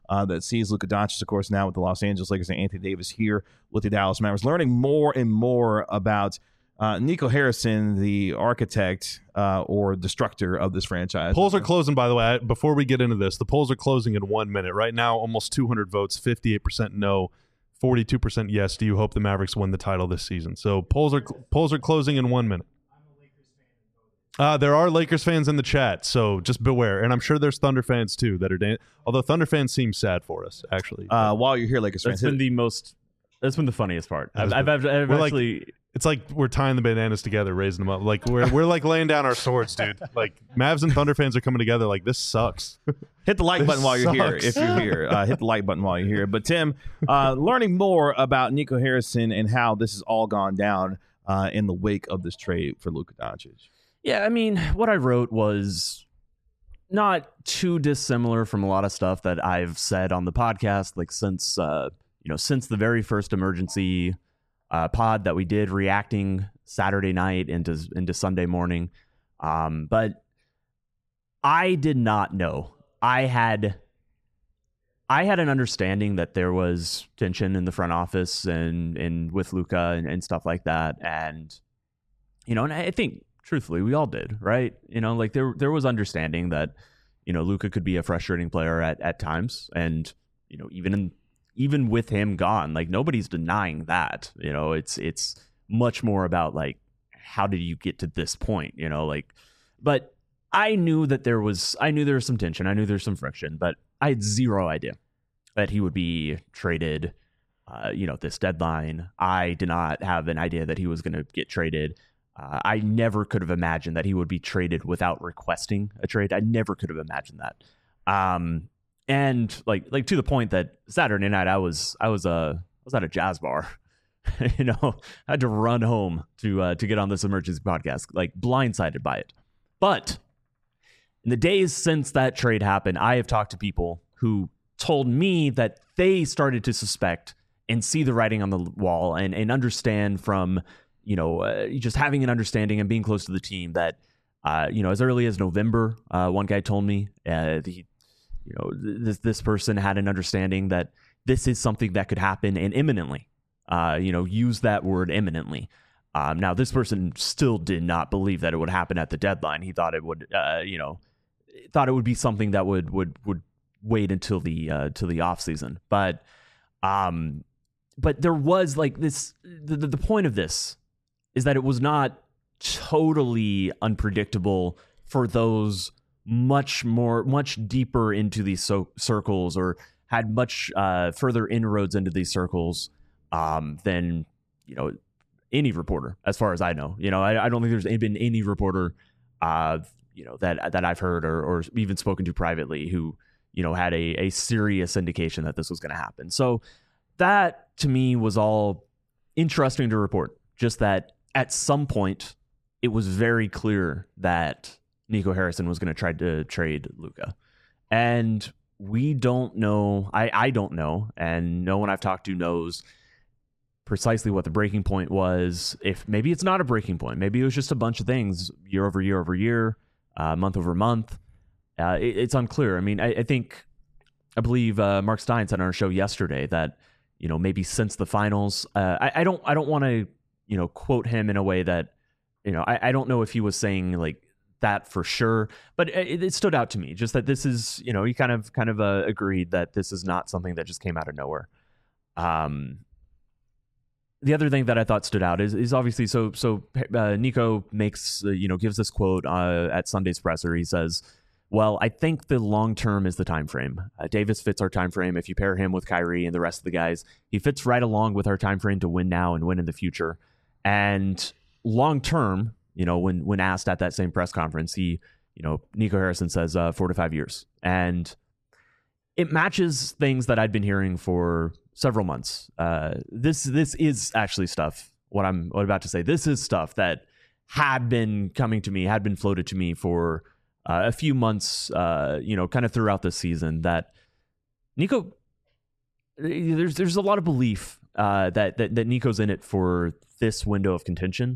that sees Luka Doncic, of course, now with the Los Angeles Lakers, and Anthony Davis here with the Dallas Mavericks, learning more and more about Nico Harrison, the architect or destructor of this franchise.
Polls are closing, by the way. Before we get into this, the polls are closing in 1 minute. Right now, almost 200 votes, 58% no, 42% yes. Do you hope the Mavericks win the title this season? So polls are closing in 1 minute. There are Lakers fans in the chat, so just beware. And I'm sure there's Thunder fans too that are although Thunder fans seem sad for us, actually.
While you're here, Lakers fans,
that's been the funniest part. I've actually.
It's like we're tying the bananas together, raising them up. Like we're like laying down our swords, dude. Like Mavs and Thunder fans are coming together. Like this sucks.
Hit the like button while you're here. If you're here, hit the like button while you're here. But Tim, learning more about Nico Harrison and how this has all gone down in the wake of this trade for Luka Doncic.
Yeah, I mean, what I wrote was not too dissimilar from a lot of stuff that I've said on the podcast, like since the very first emergency pod that we did, reacting Saturday night into Sunday morning. But I did not know. I had an understanding that there was tension in the front office and with Luka and stuff like that, and and I think, truthfully, we all did, right? Like there was understanding that, Luka could be a frustrating player at times. And, even with him gone, like nobody's denying that, it's much more about like, how did you get to this point? But I knew that there was some tension. I knew there was some friction, but I had zero idea that he would be traded, this deadline. I did not have an idea that he was going to get traded. I never could have imagined that he would be traded without requesting a trade. I never could have imagined that. And like to the point that Saturday night I was at a jazz bar. I had to run home to get on this emergency podcast, like blindsided by it. But in the days since that trade happened, I have talked to people who told me that they started to suspect and see the writing on the wall and understand from just having an understanding and being close to the team that, as early as November, one guy told me this person had an understanding that this is something that could happen and imminently, use that word imminently. Now, this person still did not believe that it would happen at the deadline. He thought it would, thought it would be something that would wait until the off season. But there was like this, the point of this is that it was not totally unpredictable for those much deeper into these circles or had much further inroads into these circles than any reporter, as far as I know. I don't think there's been any reporter that I've heard or even spoken to privately who had a serious indication that this was going to happen. So that to me was all interesting to report. Just that at some point it was very clear that Nico Harrison was going to try to trade Luka. And we don't know. I don't know. And no one I've talked to knows precisely what the breaking point was. If maybe it's not a breaking point, maybe it was just a bunch of things year over year over year, month over month. It's unclear. I mean, I believe Mark Stein said on our show yesterday that, maybe since the finals, I don't want to, quote him in a way that, I don't know if he was saying like that for sure, but it stood out to me just that this is, he kind of agreed that this is not something that just came out of nowhere. The other thing that I thought stood out is obviously, so Nico makes, gives this quote at Sunday's presser. He says, well, I think the long term is the time frame. Davis fits our time frame. If you pair him with Kyrie and the rest of the guys, he fits right along with our time frame to win now and win in the future. And long term, when asked at that same press conference, Nico Harrison says 4 to 5 years, and it matches things that I'd been hearing for several months. This is actually stuff. What I'm about to say, this is stuff that had been coming to me, had been floated to me for a few months, kind of throughout the season, that Nico, there's a lot of belief that Nico's in it for this window of contention,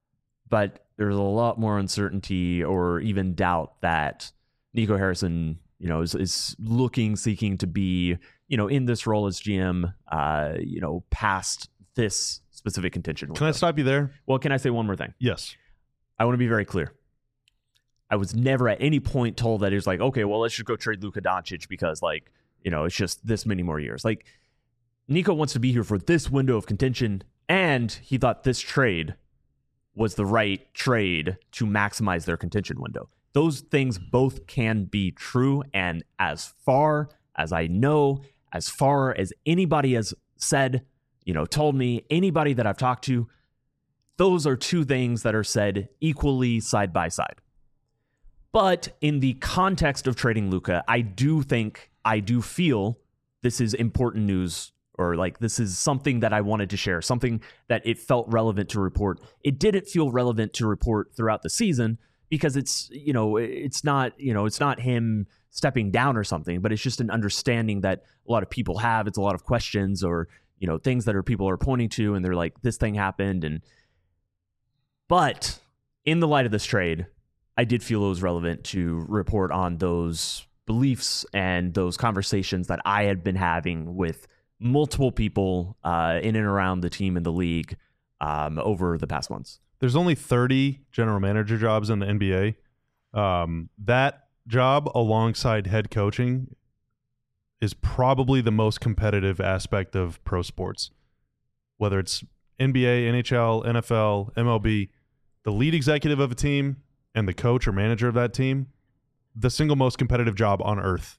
but there's a lot more uncertainty or even doubt that Nico Harrison is seeking to be, in this role as GM, past this specific contention window.
Can I stop you there?
Well, can I say one more thing?
Yes.
I want to be very clear. I was never at any point told that it was like, okay, well, let's just go trade Luka Doncic because, like, it's just this many more years. Like, Nico wants to be here for this window of contention, and he thought this trade was the right trade to maximize their contention window. Those things both can be true, and as far as I know, as far as anybody has said, told me, anybody that I've talked to, those are two things that are said equally side by side. But in the context of trading Luka, I do feel this is important news, or like this is something that I wanted to share, something that it felt relevant to report. It didn't feel relevant to report throughout the season because it's not him stepping down or something, but it's just an understanding that a lot of people have. It's a lot of questions or, things that people are pointing to, and they're like, this thing happened. But in the light of this trade, I did feel it was relevant to report on those beliefs and those conversations that I had been having with multiple people in and around the team and the league over the past months.
There's only 30 general manager jobs in the NBA. That job alongside head coaching is probably the most competitive aspect of pro sports. Whether it's NBA, NHL, NFL, MLB, the lead executive of a team and the coach or manager of that team, the single most competitive job on earth.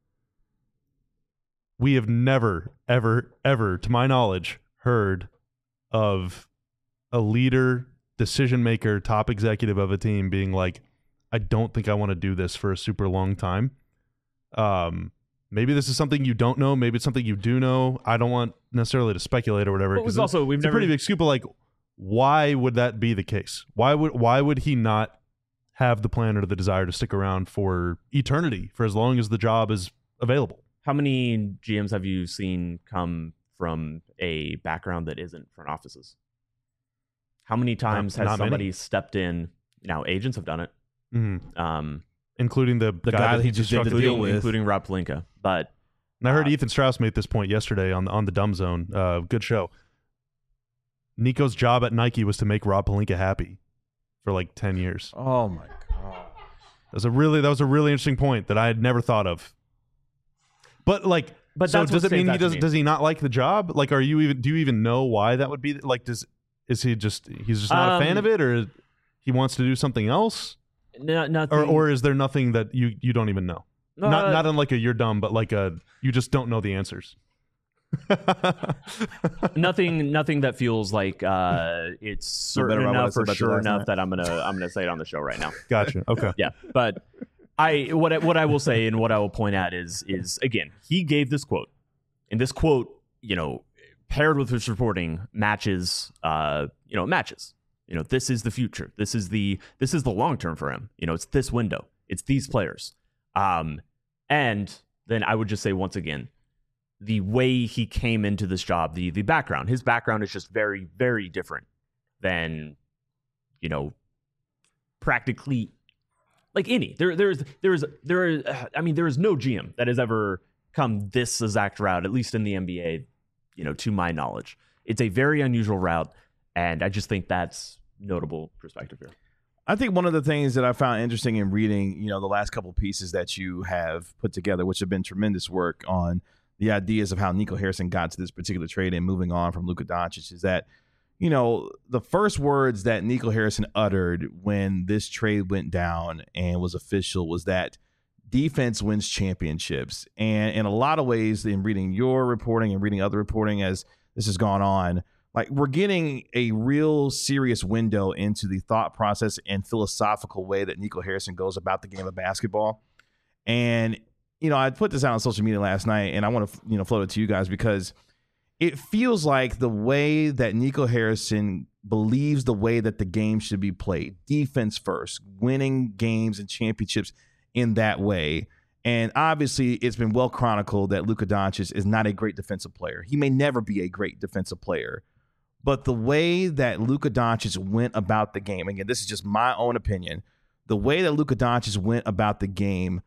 We have never, ever, ever, to my knowledge, heard of a leader, decision maker, top executive of a team being like, I don't think I want to do this for a super long time. Maybe this is something you don't know. Maybe it's something you do know. I don't want necessarily to speculate or whatever.
But it's a
pretty big scoop of like, why would that be the case? Why would he not have the plan or the desire to stick around for eternity, for as long as the job is available?
How many GMs have you seen come from a background that isn't front offices? How many times has somebody stepped in? Now, agents have done it.
Mm-hmm. Including the guy that he just
did the deal with.
Including Rob Pelinka. But
and I heard Ethan Strauss make this point yesterday on the Dumb Zone. Good show. Nico's job at Nike was to make Rob Pelinka happy for like 10 years.
Oh my God.
That was a really interesting point that I had never thought of. But so does it mean does he not like the job? Like, do you even know why that would be? Like, he's just not a fan of it, or he wants to do something else?
Nothing.
Or is there nothing that you don't even know? Not in like a you're dumb, but like you just don't know the answers.
Nothing that feels like it's certain enough or sure enough that I'm gonna say it on the show right now.
Gotcha. Okay.
Yeah, but what I will say and what I will point at is again, he gave this quote, and this quote, paired with his reporting matches. This is the future. This is the long term for him. It's this window. It's these players. And then I would just say once again, the way he came into this job, the background, his background is just very, very different than, practically like any. There is no GM that has ever come this exact route, at least in the NBA, to my knowledge. It's a very unusual route, and I just think that's notable perspective here.
I think one of the things that I found interesting in reading, the last couple of pieces that you have put together, which have been tremendous work on the ideas of how Nico Harrison got to this particular trade and moving on from Luka Doncic, is that, the first words that Nico Harrison uttered when this trade went down and was official was that defense wins championships. And in a lot of ways, in reading your reporting and reading other reporting as this has gone on, like, we're getting a real serious window into the thought process and philosophical way that Nico Harrison goes about the game of basketball. And, I put this out on social media last night, and I want to, float it to you guys, because it feels like the way that Nico Harrison believes the way that the game should be played, defense first, winning games and championships in that way. And obviously, it's been well chronicled that Luka Doncic is not a great defensive player. He may never be a great defensive player. But the way that Luka Doncic went about the game, again, this is just my own opinion, the way that Luka Doncic went about the game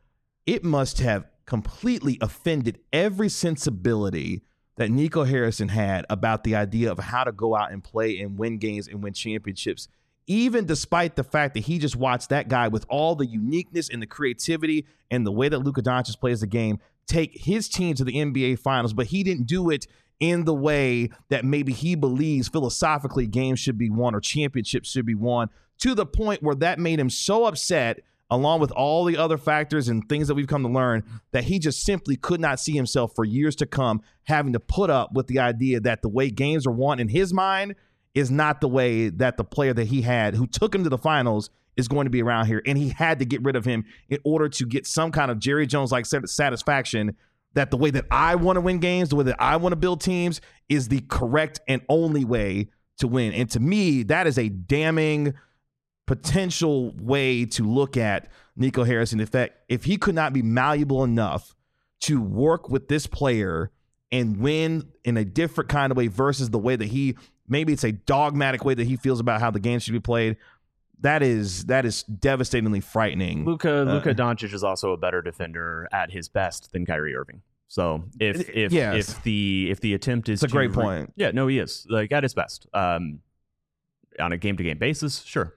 it must have completely offended every sensibility that Nico Harrison had about the idea of how to go out and play and win games and win championships, even despite the fact that he just watched that guy with all the uniqueness and the creativity and the way that Luka Doncic plays the game take his team to the NBA Finals, but he didn't do it in the way that maybe he believes philosophically games should be won or championships should be won, to the point where that made him so upset, along with all the other factors and things that we've come to learn, that he just simply could not see himself for years to come having to put up with the idea that the way games are won in his mind is not the way that the player that he had who took him to the finals is going to be around here. And he had to get rid of him in order to get some kind of Jerry Jones-like satisfaction that the way that I want to win games, the way that I want to build teams is the correct and only way to win. And to me, that is a damning potential way to look at Nico Harrison. In fact, if he could not be malleable enough to work with this player and win in a different kind of way versus the way that maybe it's a dogmatic way that he feels about how the game should be played, that is devastatingly frightening.
Luka Doncic is also a better defender at his best than Kyrie Irving. So if the attempt is,
it's a great point.
Yeah, no, he is like at his best. On a game to game basis, sure.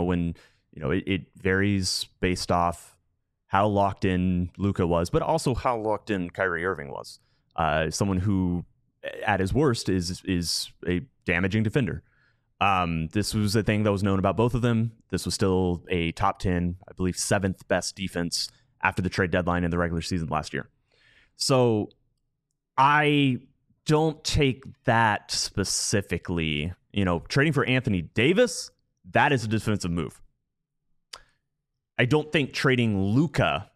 It varies based off how locked in Luka was, but also how locked in Kyrie Irving was. Someone who, at his worst, is a damaging defender. This was a thing that was known about both of them. This was still a top 10, I believe, 7th best defense after the trade deadline in the regular season last year. So I don't take that specifically. Trading for Anthony Davis, that is a defensive move. I don't think trading Luka,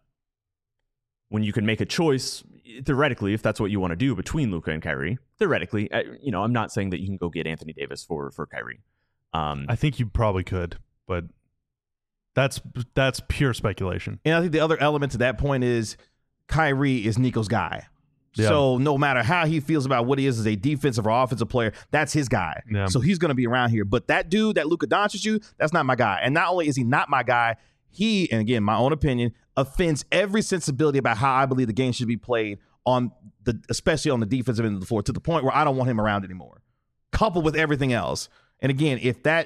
when you can make a choice, theoretically, if that's what you want to do between Luka and Kyrie, theoretically, I'm not saying that you can go get Anthony Davis for Kyrie.
I think you probably could, but that's pure speculation.
And I think the other element to that point is Kyrie is Nico's guy. Yeah. So no matter how he feels about what he is as a defensive or offensive player, that's his guy. Yeah. So he's going to be around here. But that dude, that Luka Doncic, that's not my guy. And not only is he not my guy, he, and again, my own opinion, offends every sensibility about how I believe the game should be played especially on the defensive end of the floor, to the point where I don't want him around anymore, coupled with everything else. And again,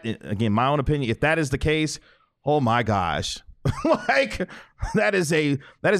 my own opinion, if that is the case, oh my gosh. Like that is a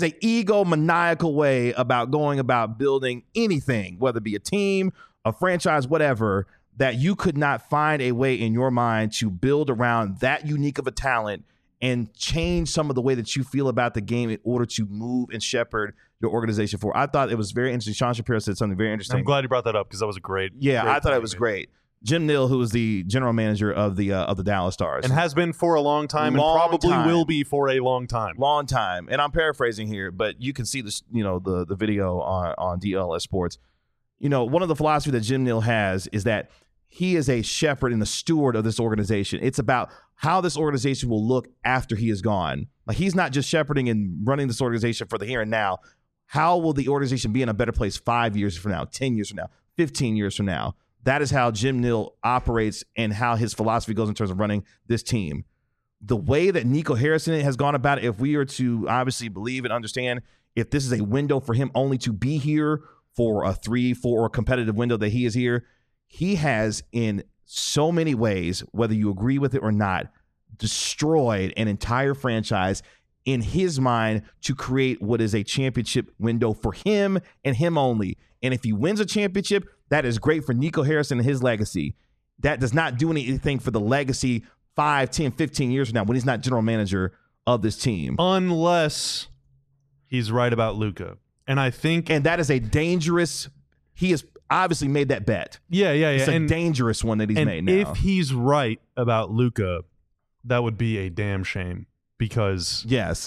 egomaniacal way about going about building anything, whether it be a team, a franchise, whatever, that you could not find a way in your mind to build around that unique of a talent and change some of the way that you feel about the game in order to move and shepherd your organization forward. I thought it was very interesting. Sean Shapiro said something very interesting.
I'm glad you brought that up because that was a great.
Yeah, I thought it was great. Jim Neal, who is the general manager of the Dallas Stars,
and has been for a long time, and probably will be for a long time.
Long time. And I'm paraphrasing here, but you can see this, the video on DLS Sports. One of the philosophy that Jim Neal has is that he is a shepherd and a steward of this organization. It's about how this organization will look after he is gone. Like, he's not just shepherding and running this organization for the here and now. How will the organization be in a better place 5 years from now, 10 years from now, 15 years from now? That is how Jim Neal operates and how his philosophy goes in terms of running this team. The way that Nico Harrison has gone about it, if we are to obviously believe and understand, if this is a window for him only to be here for a 3-4 or competitive window that he is here, he has in so many ways, whether you agree with it or not, destroyed an entire franchise in his mind to create what is a championship window for him and him only. And if he wins a championship, that is great for Nico Harrison and his legacy. That does not do anything for the legacy 5, 10, 15 years from now when he's not general manager of this team.
Unless he's right about Luka. And
that is a dangerous, he has obviously made that bet.
Yeah.
It's a dangerous one that he's made now.
If he's right about Luka, that would be a damn shame, because
yes,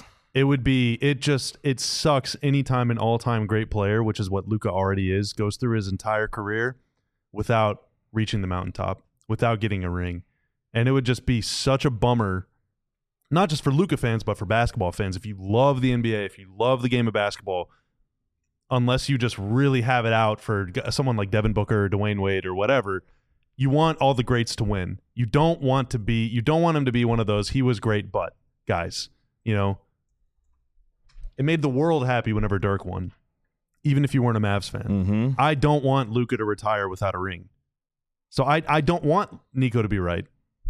it sucks anytime an all-time great player, which is what Luka already is, goes through his entire career without reaching the mountaintop, without getting a ring. And it would just be such a bummer, not just for Luka fans, but for basketball fans. If you love the NBA, if you love the game of basketball, unless you just really have it out for someone like Devin Booker or Dwayne Wade or whatever, you want all the greats to win. You don't want him to be one of those, he was great, but guys, It made the world happy whenever Dirk won, even if you weren't a Mavs fan.
Mm-hmm.
I don't want Luka to retire without a ring. So I don't want Nico to be right.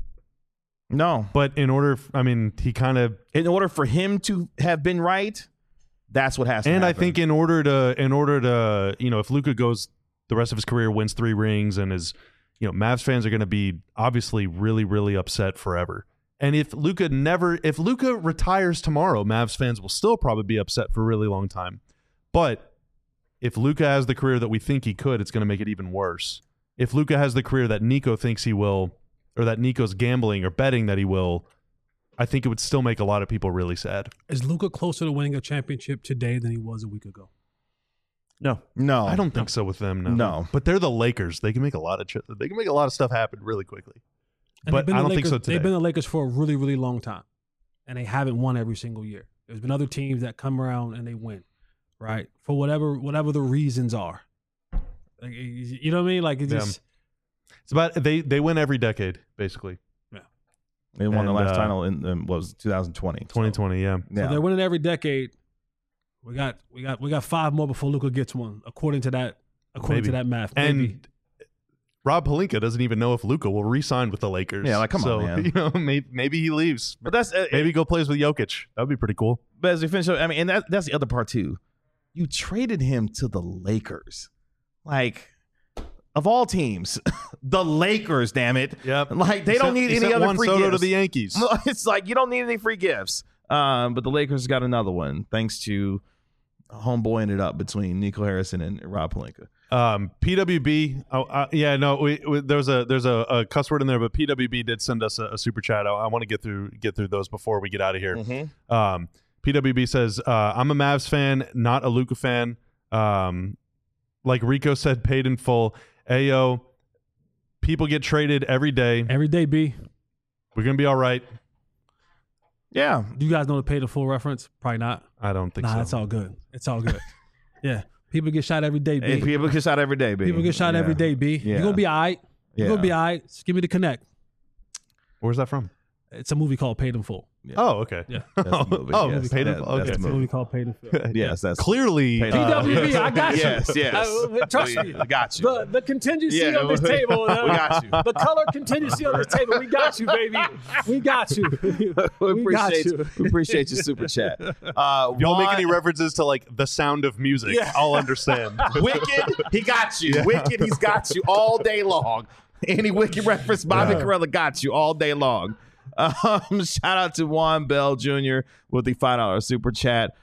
No.
But in order
for him to have been right, that's what has to happen.
And I think in order to, if Luka goes the rest of his career, wins 3 rings, and is, Mavs fans are going to be obviously really, really upset forever. And if Luka retires tomorrow, Mavs fans will still probably be upset for a really long time. But if Luka has the career that we think he could, it's going to make it even worse. If Luka has the career that Nico thinks he will, or that Nico's gambling or betting that he will, I think it would still make a lot of people really sad.
Is Luka closer to winning a championship today than he was a week ago?
No.
I don't think so with them. No. But they're the Lakers. They can make a lot of stuff happen really quickly.
And
but I don't think so today.
They've been the Lakers for a really, really long time, and they haven't won every single year. There's been other teams that come around and they win, right? For whatever the reasons are. Like, you know what I mean? Like, it's
about they win every decade, basically.
Yeah.
They won the last title in was 2020.
2020, yeah.
So they're winning every decade. We got 5 more before Luka gets one, according to that math. Maybe.
And Rob Pelinka doesn't even know if Luka will re-sign with the Lakers.
Yeah, like come on, man.
Maybe he leaves.
But that's
maybe go plays with Jokic. That would be pretty cool.
But as we finish up, and that's the other part too. You traded him to the Lakers, like of all teams, the Lakers. Damn it!
Yep.
Like they don't need any other free gifts.
To the Yankees.
It's like you don't need any free gifts. But the Lakers got another one thanks to homeboy ended up between Nico Harrison and Rob Pelinka.
PWB. There's a cuss word in there, but PWB did send us a super chat. I want to get through those before we get out of here.
Mm-hmm.
PWB says, I'm a Mavs fan, not a Luka fan. Like Rico said, paid in full. Ayo, people get traded every day.
Every day, B.
We're going to be all right.
Yeah. Do you guys know the paid in full reference? Probably not.
I don't think so.
Nah, it's all good. It's all good. Yeah. People get shot every day, B.
Hey, people get shot every day, B.
People get shot every day, B. You're going to be all right. You're going to be all right. Just give me the connect.
Where's that from?
It's a movie called Paid in Full.
Yeah. Oh, okay.
Yeah.
That's the movie. Yes,
Paid in Full. Okay.
It's a movie called Paid in Full.
Yes, that's
clearly
PWB. I got you.
Yes.
Trust me.
I got you.
The contingency on this table.
We got you.
The color contingency on this table. We got you, baby. We got you.
We appreciate your super chat.
If y'all make any references to like The Sound of Music, I'll understand.
Wicked, he got you. Wicked, he's got you all day long. Any Wicked reference, Bobby Carella got you all day long. Shout out to Juan Bell Jr. with the $5 super chat.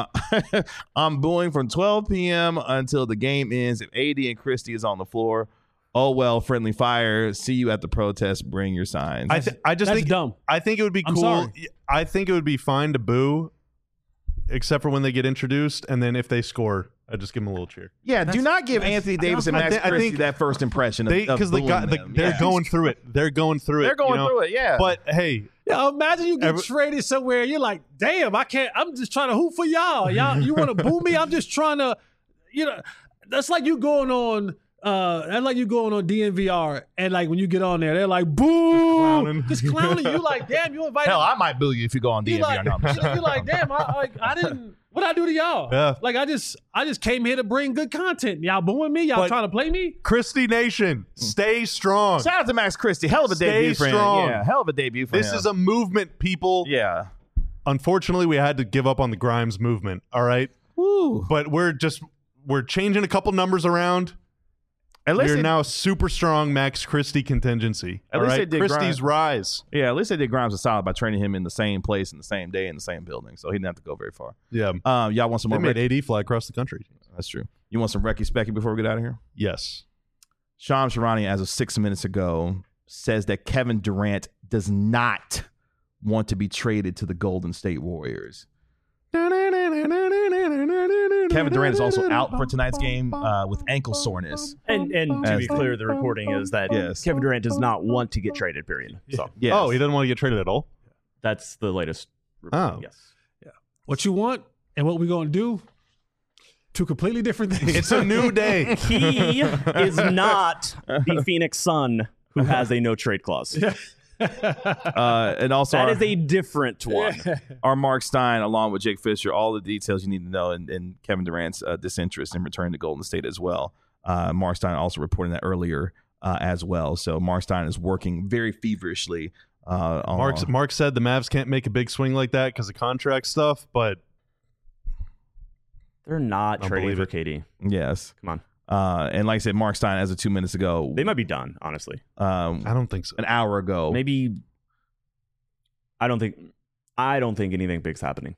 I'm booing from 12 p.m. until the game ends. If AD and Christie is on the floor, oh well, friendly fire. See you at the protest. Bring your signs.
I just think
dumb.
I think it would be cool.
Sorry.
I think it would be fine to boo, except for when they get introduced, and then if they score, I just give them a little cheer.
Yeah, do not give Anthony Davis and Max Christie that first impression
because they're going through it. They're going through it.
They're going through it. Yeah.
But hey,
imagine you get traded somewhere. You're like, damn, I can't. I'm just trying to hoop for y'all. You want to boo me? I'm just trying to. That's like you going on. That's like you going on DNVR and like when you get on there, they're like, boo, just clowning you. Like, damn, you invited.
Hell, I might boo you if you go on DNVR.
You're like, damn, I didn't. What'd I do to y'all?
Yeah.
Like I just came here to bring good content. Y'all booing me? Y'all trying to play me?
Christie Nation, stay strong.
Shout out to Max Christie. Hell of a debut for him. Yeah, hell of a debut for him.
This is a movement, people.
Yeah.
Unfortunately, we had to give up on the Grimes movement. All right.
Woo.
But we're changing a couple numbers around. We're now super strong Max Christie contingency.
At least they did
Christie's rise.
Yeah, at least they did Grimes a solid by training him in the same place, in the same day, in the same building. So he didn't have to go very far.
Yeah.
Y'all want some more?
They made AD fly across the country.
That's true. You want some Recky Specky before we get out of here?
Yes.
Shams Charania, as of 6 minutes ago, says that Kevin Durant does not want to be traded to the Golden State Warriors. Kevin Durant is also out for tonight's game with ankle soreness.
And to be clear, the reporting is that Kevin Durant does not want to get traded, period. So,
yes.
Oh, he doesn't want to get traded at all?
That's the latest reporting, yes.
Yeah. What you want and what we're going to do, two completely different things.
It's a new day.
He is not the Phoenix Sun who has a no-trade clause.
Yeah.
And also
That is a different one.
our Mark Stein, along with Jake Fisher, all the details you need to know, and Kevin Durant's disinterest in returning to Golden State as well. Mark Stein also reporting that earlier as well. So Mark Stein is working very feverishly.
Mark said the Mavs can't make a big swing like that because of contract stuff, but
They're not trading for KD.
Yes.
Come on.
And like I said, Mark Stein, as of 2 minutes ago,
They might be done, honestly.
I don't think so.
an hour ago.
Maybe. I don't think anything big's happening.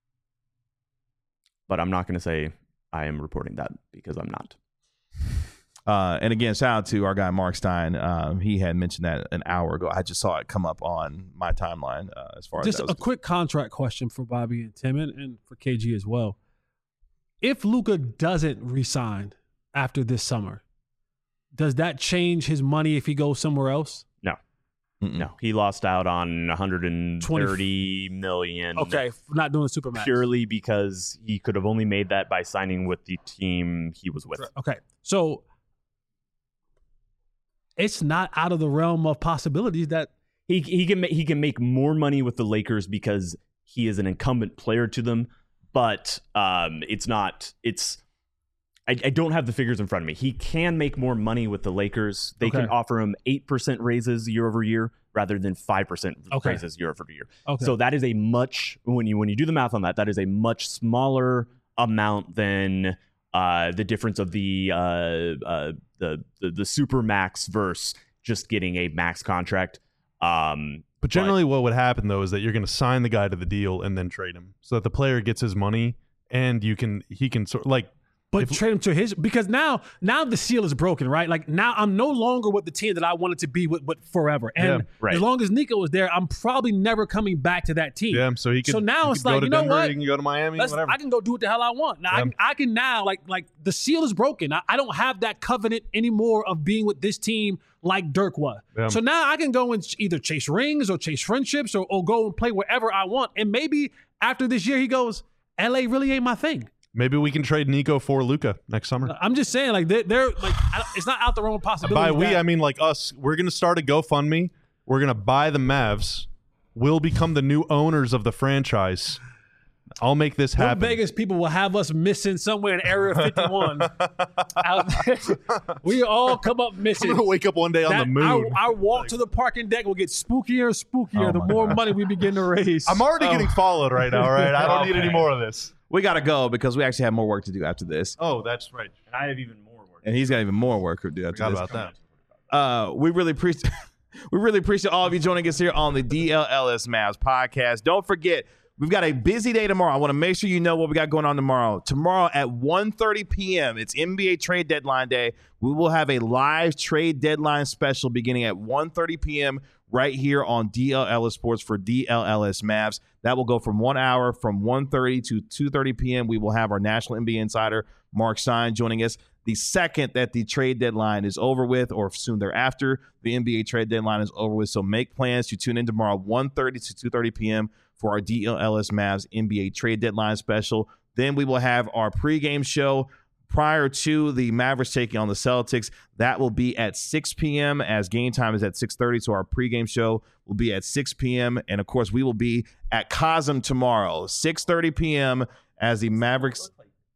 But I'm not going to say I am reporting that because I'm not.
And again, shout out to our guy Mark Stein. He had mentioned that an hour ago. I just saw it come up on my timeline as far
Just
as
a quick contract question for Bobby and Tim and for KG as well. If Luka doesn't re-sign after this summer, does that change his money if he goes somewhere else?
No. No. He lost out on $130 million.
Okay, for not doing the Supermax.
Purely because he could have only made that by signing with the team he was with.
Okay, so it's not out of the realm of possibilities that
He can make more money with the Lakers because he is an incumbent player to them, but I don't have the figures in front of me. He can make more money with the Lakers. They can offer him 8% raises year over year rather than 5% raises year over year.
Okay.
So that is a much, when you do the math on that, that is a much smaller amount than the difference of the super max versus just getting a max contract.
But generally what would happen, though, is that you're going to sign the guy to the deal and then trade him so that the player gets his money and he can sort of like.
But trade him to his, because now the seal is broken, right? Like now I'm no longer with the team that I wanted to be with forever. And as long as Nico was there, I'm probably never coming back to that team.
Yeah, so
now it's like, you know what?
He can go to Miami, whatever.
I can go do what the hell I want. Now I can now like the seal is broken. I don't have that covenant anymore of being with this team like Dirk was. Yeah. So now I can go and either chase rings or chase friendships or go and play wherever I want. And maybe after this year he goes, LA really ain't my thing.
Maybe we can trade Nico for Luka next summer.
I'm just saying, like they're like, it's not out the realm of possibility.
By we, I mean like us. We're going to start a GoFundMe. We're going to buy the Mavs. We'll become the new owners of the franchise. I'll make this happen.
Vegas people will have us missing somewhere in Area 51. Out there. We all come up missing.
I'm going to wake up one day on the moon.
Our walk to the parking deck will get spookier and spookier the more money we begin to raise.
I'm already getting followed right now, right? I don't need any more of this.
We got to go because we actually have more work to do after this.
Oh, that's right.
And I have even more work.
And he's got even more work to do after this.
How about that?
We really appreciate all of you joining us here on the DLLS Mavs podcast. Don't forget, we've got a busy day tomorrow. I want to make sure you know what we got going on tomorrow. Tomorrow at 1:30 p.m., it's NBA trade deadline day. We will have a live trade deadline special beginning at 1:30 p.m. right here on DLLS Sports for DLLS Mavs. That will go from 1 hour from 1:30 to 2:30 p.m. We will have our national NBA insider, Mark Stein, joining us. The second that the trade deadline is over with, or soon thereafter, the NBA trade deadline is over with. So make plans to tune in tomorrow, 1:30 to 2:30 p.m. for our DLLS Mavs NBA trade deadline special. Then we will have our pregame show prior to the Mavericks taking on the Celtics. That will be at 6 p.m. as game time is at 6:30. So our pregame show will be at 6 p.m. And, of course, we will be at Cosm tomorrow, 6:30 p.m. as the Mavericks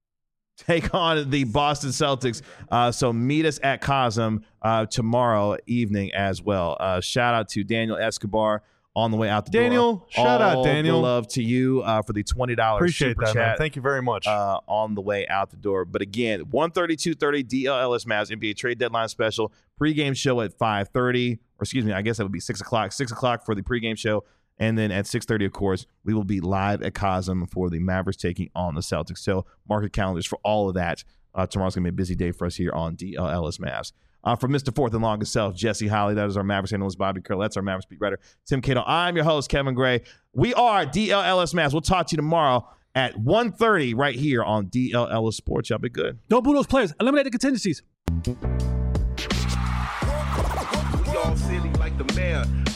take on the Boston Celtics. So meet us at Cosm tomorrow evening as well. Shout out to Daniel Escobar on the way out the door.
Shout out, Daniel.
All the love to you for the $20
Appreciate
super
that,
chat.
man. Thank you very much.
On the way out the door. But again, 1:30, 2:30, DLLS Mavs NBA trade deadline special. Pregame show at 5:30. Or excuse me, I guess that would be 6 o'clock. 6 o'clock for the pregame show. And then at 6:30, of course, we will be live at Cosm for the Mavericks taking on the Celtics. So mark your calendars for all of that. Tomorrow's going to be a busy day for us here on DLLS Mavs. From Mr. Fourth and Longest Self, Jesse Holly. That is our Mavericks analyst, Bobby Curl. That's our Mavericks beat writer, Tim Cato. I'm your host, Kevin Gray. We are DLLS Mavs. We'll talk to you tomorrow at 1:30 right here on DLLS Sports. Y'all be good.
Don't boo those players. Eliminate the contingencies.
We all silly like the mayor.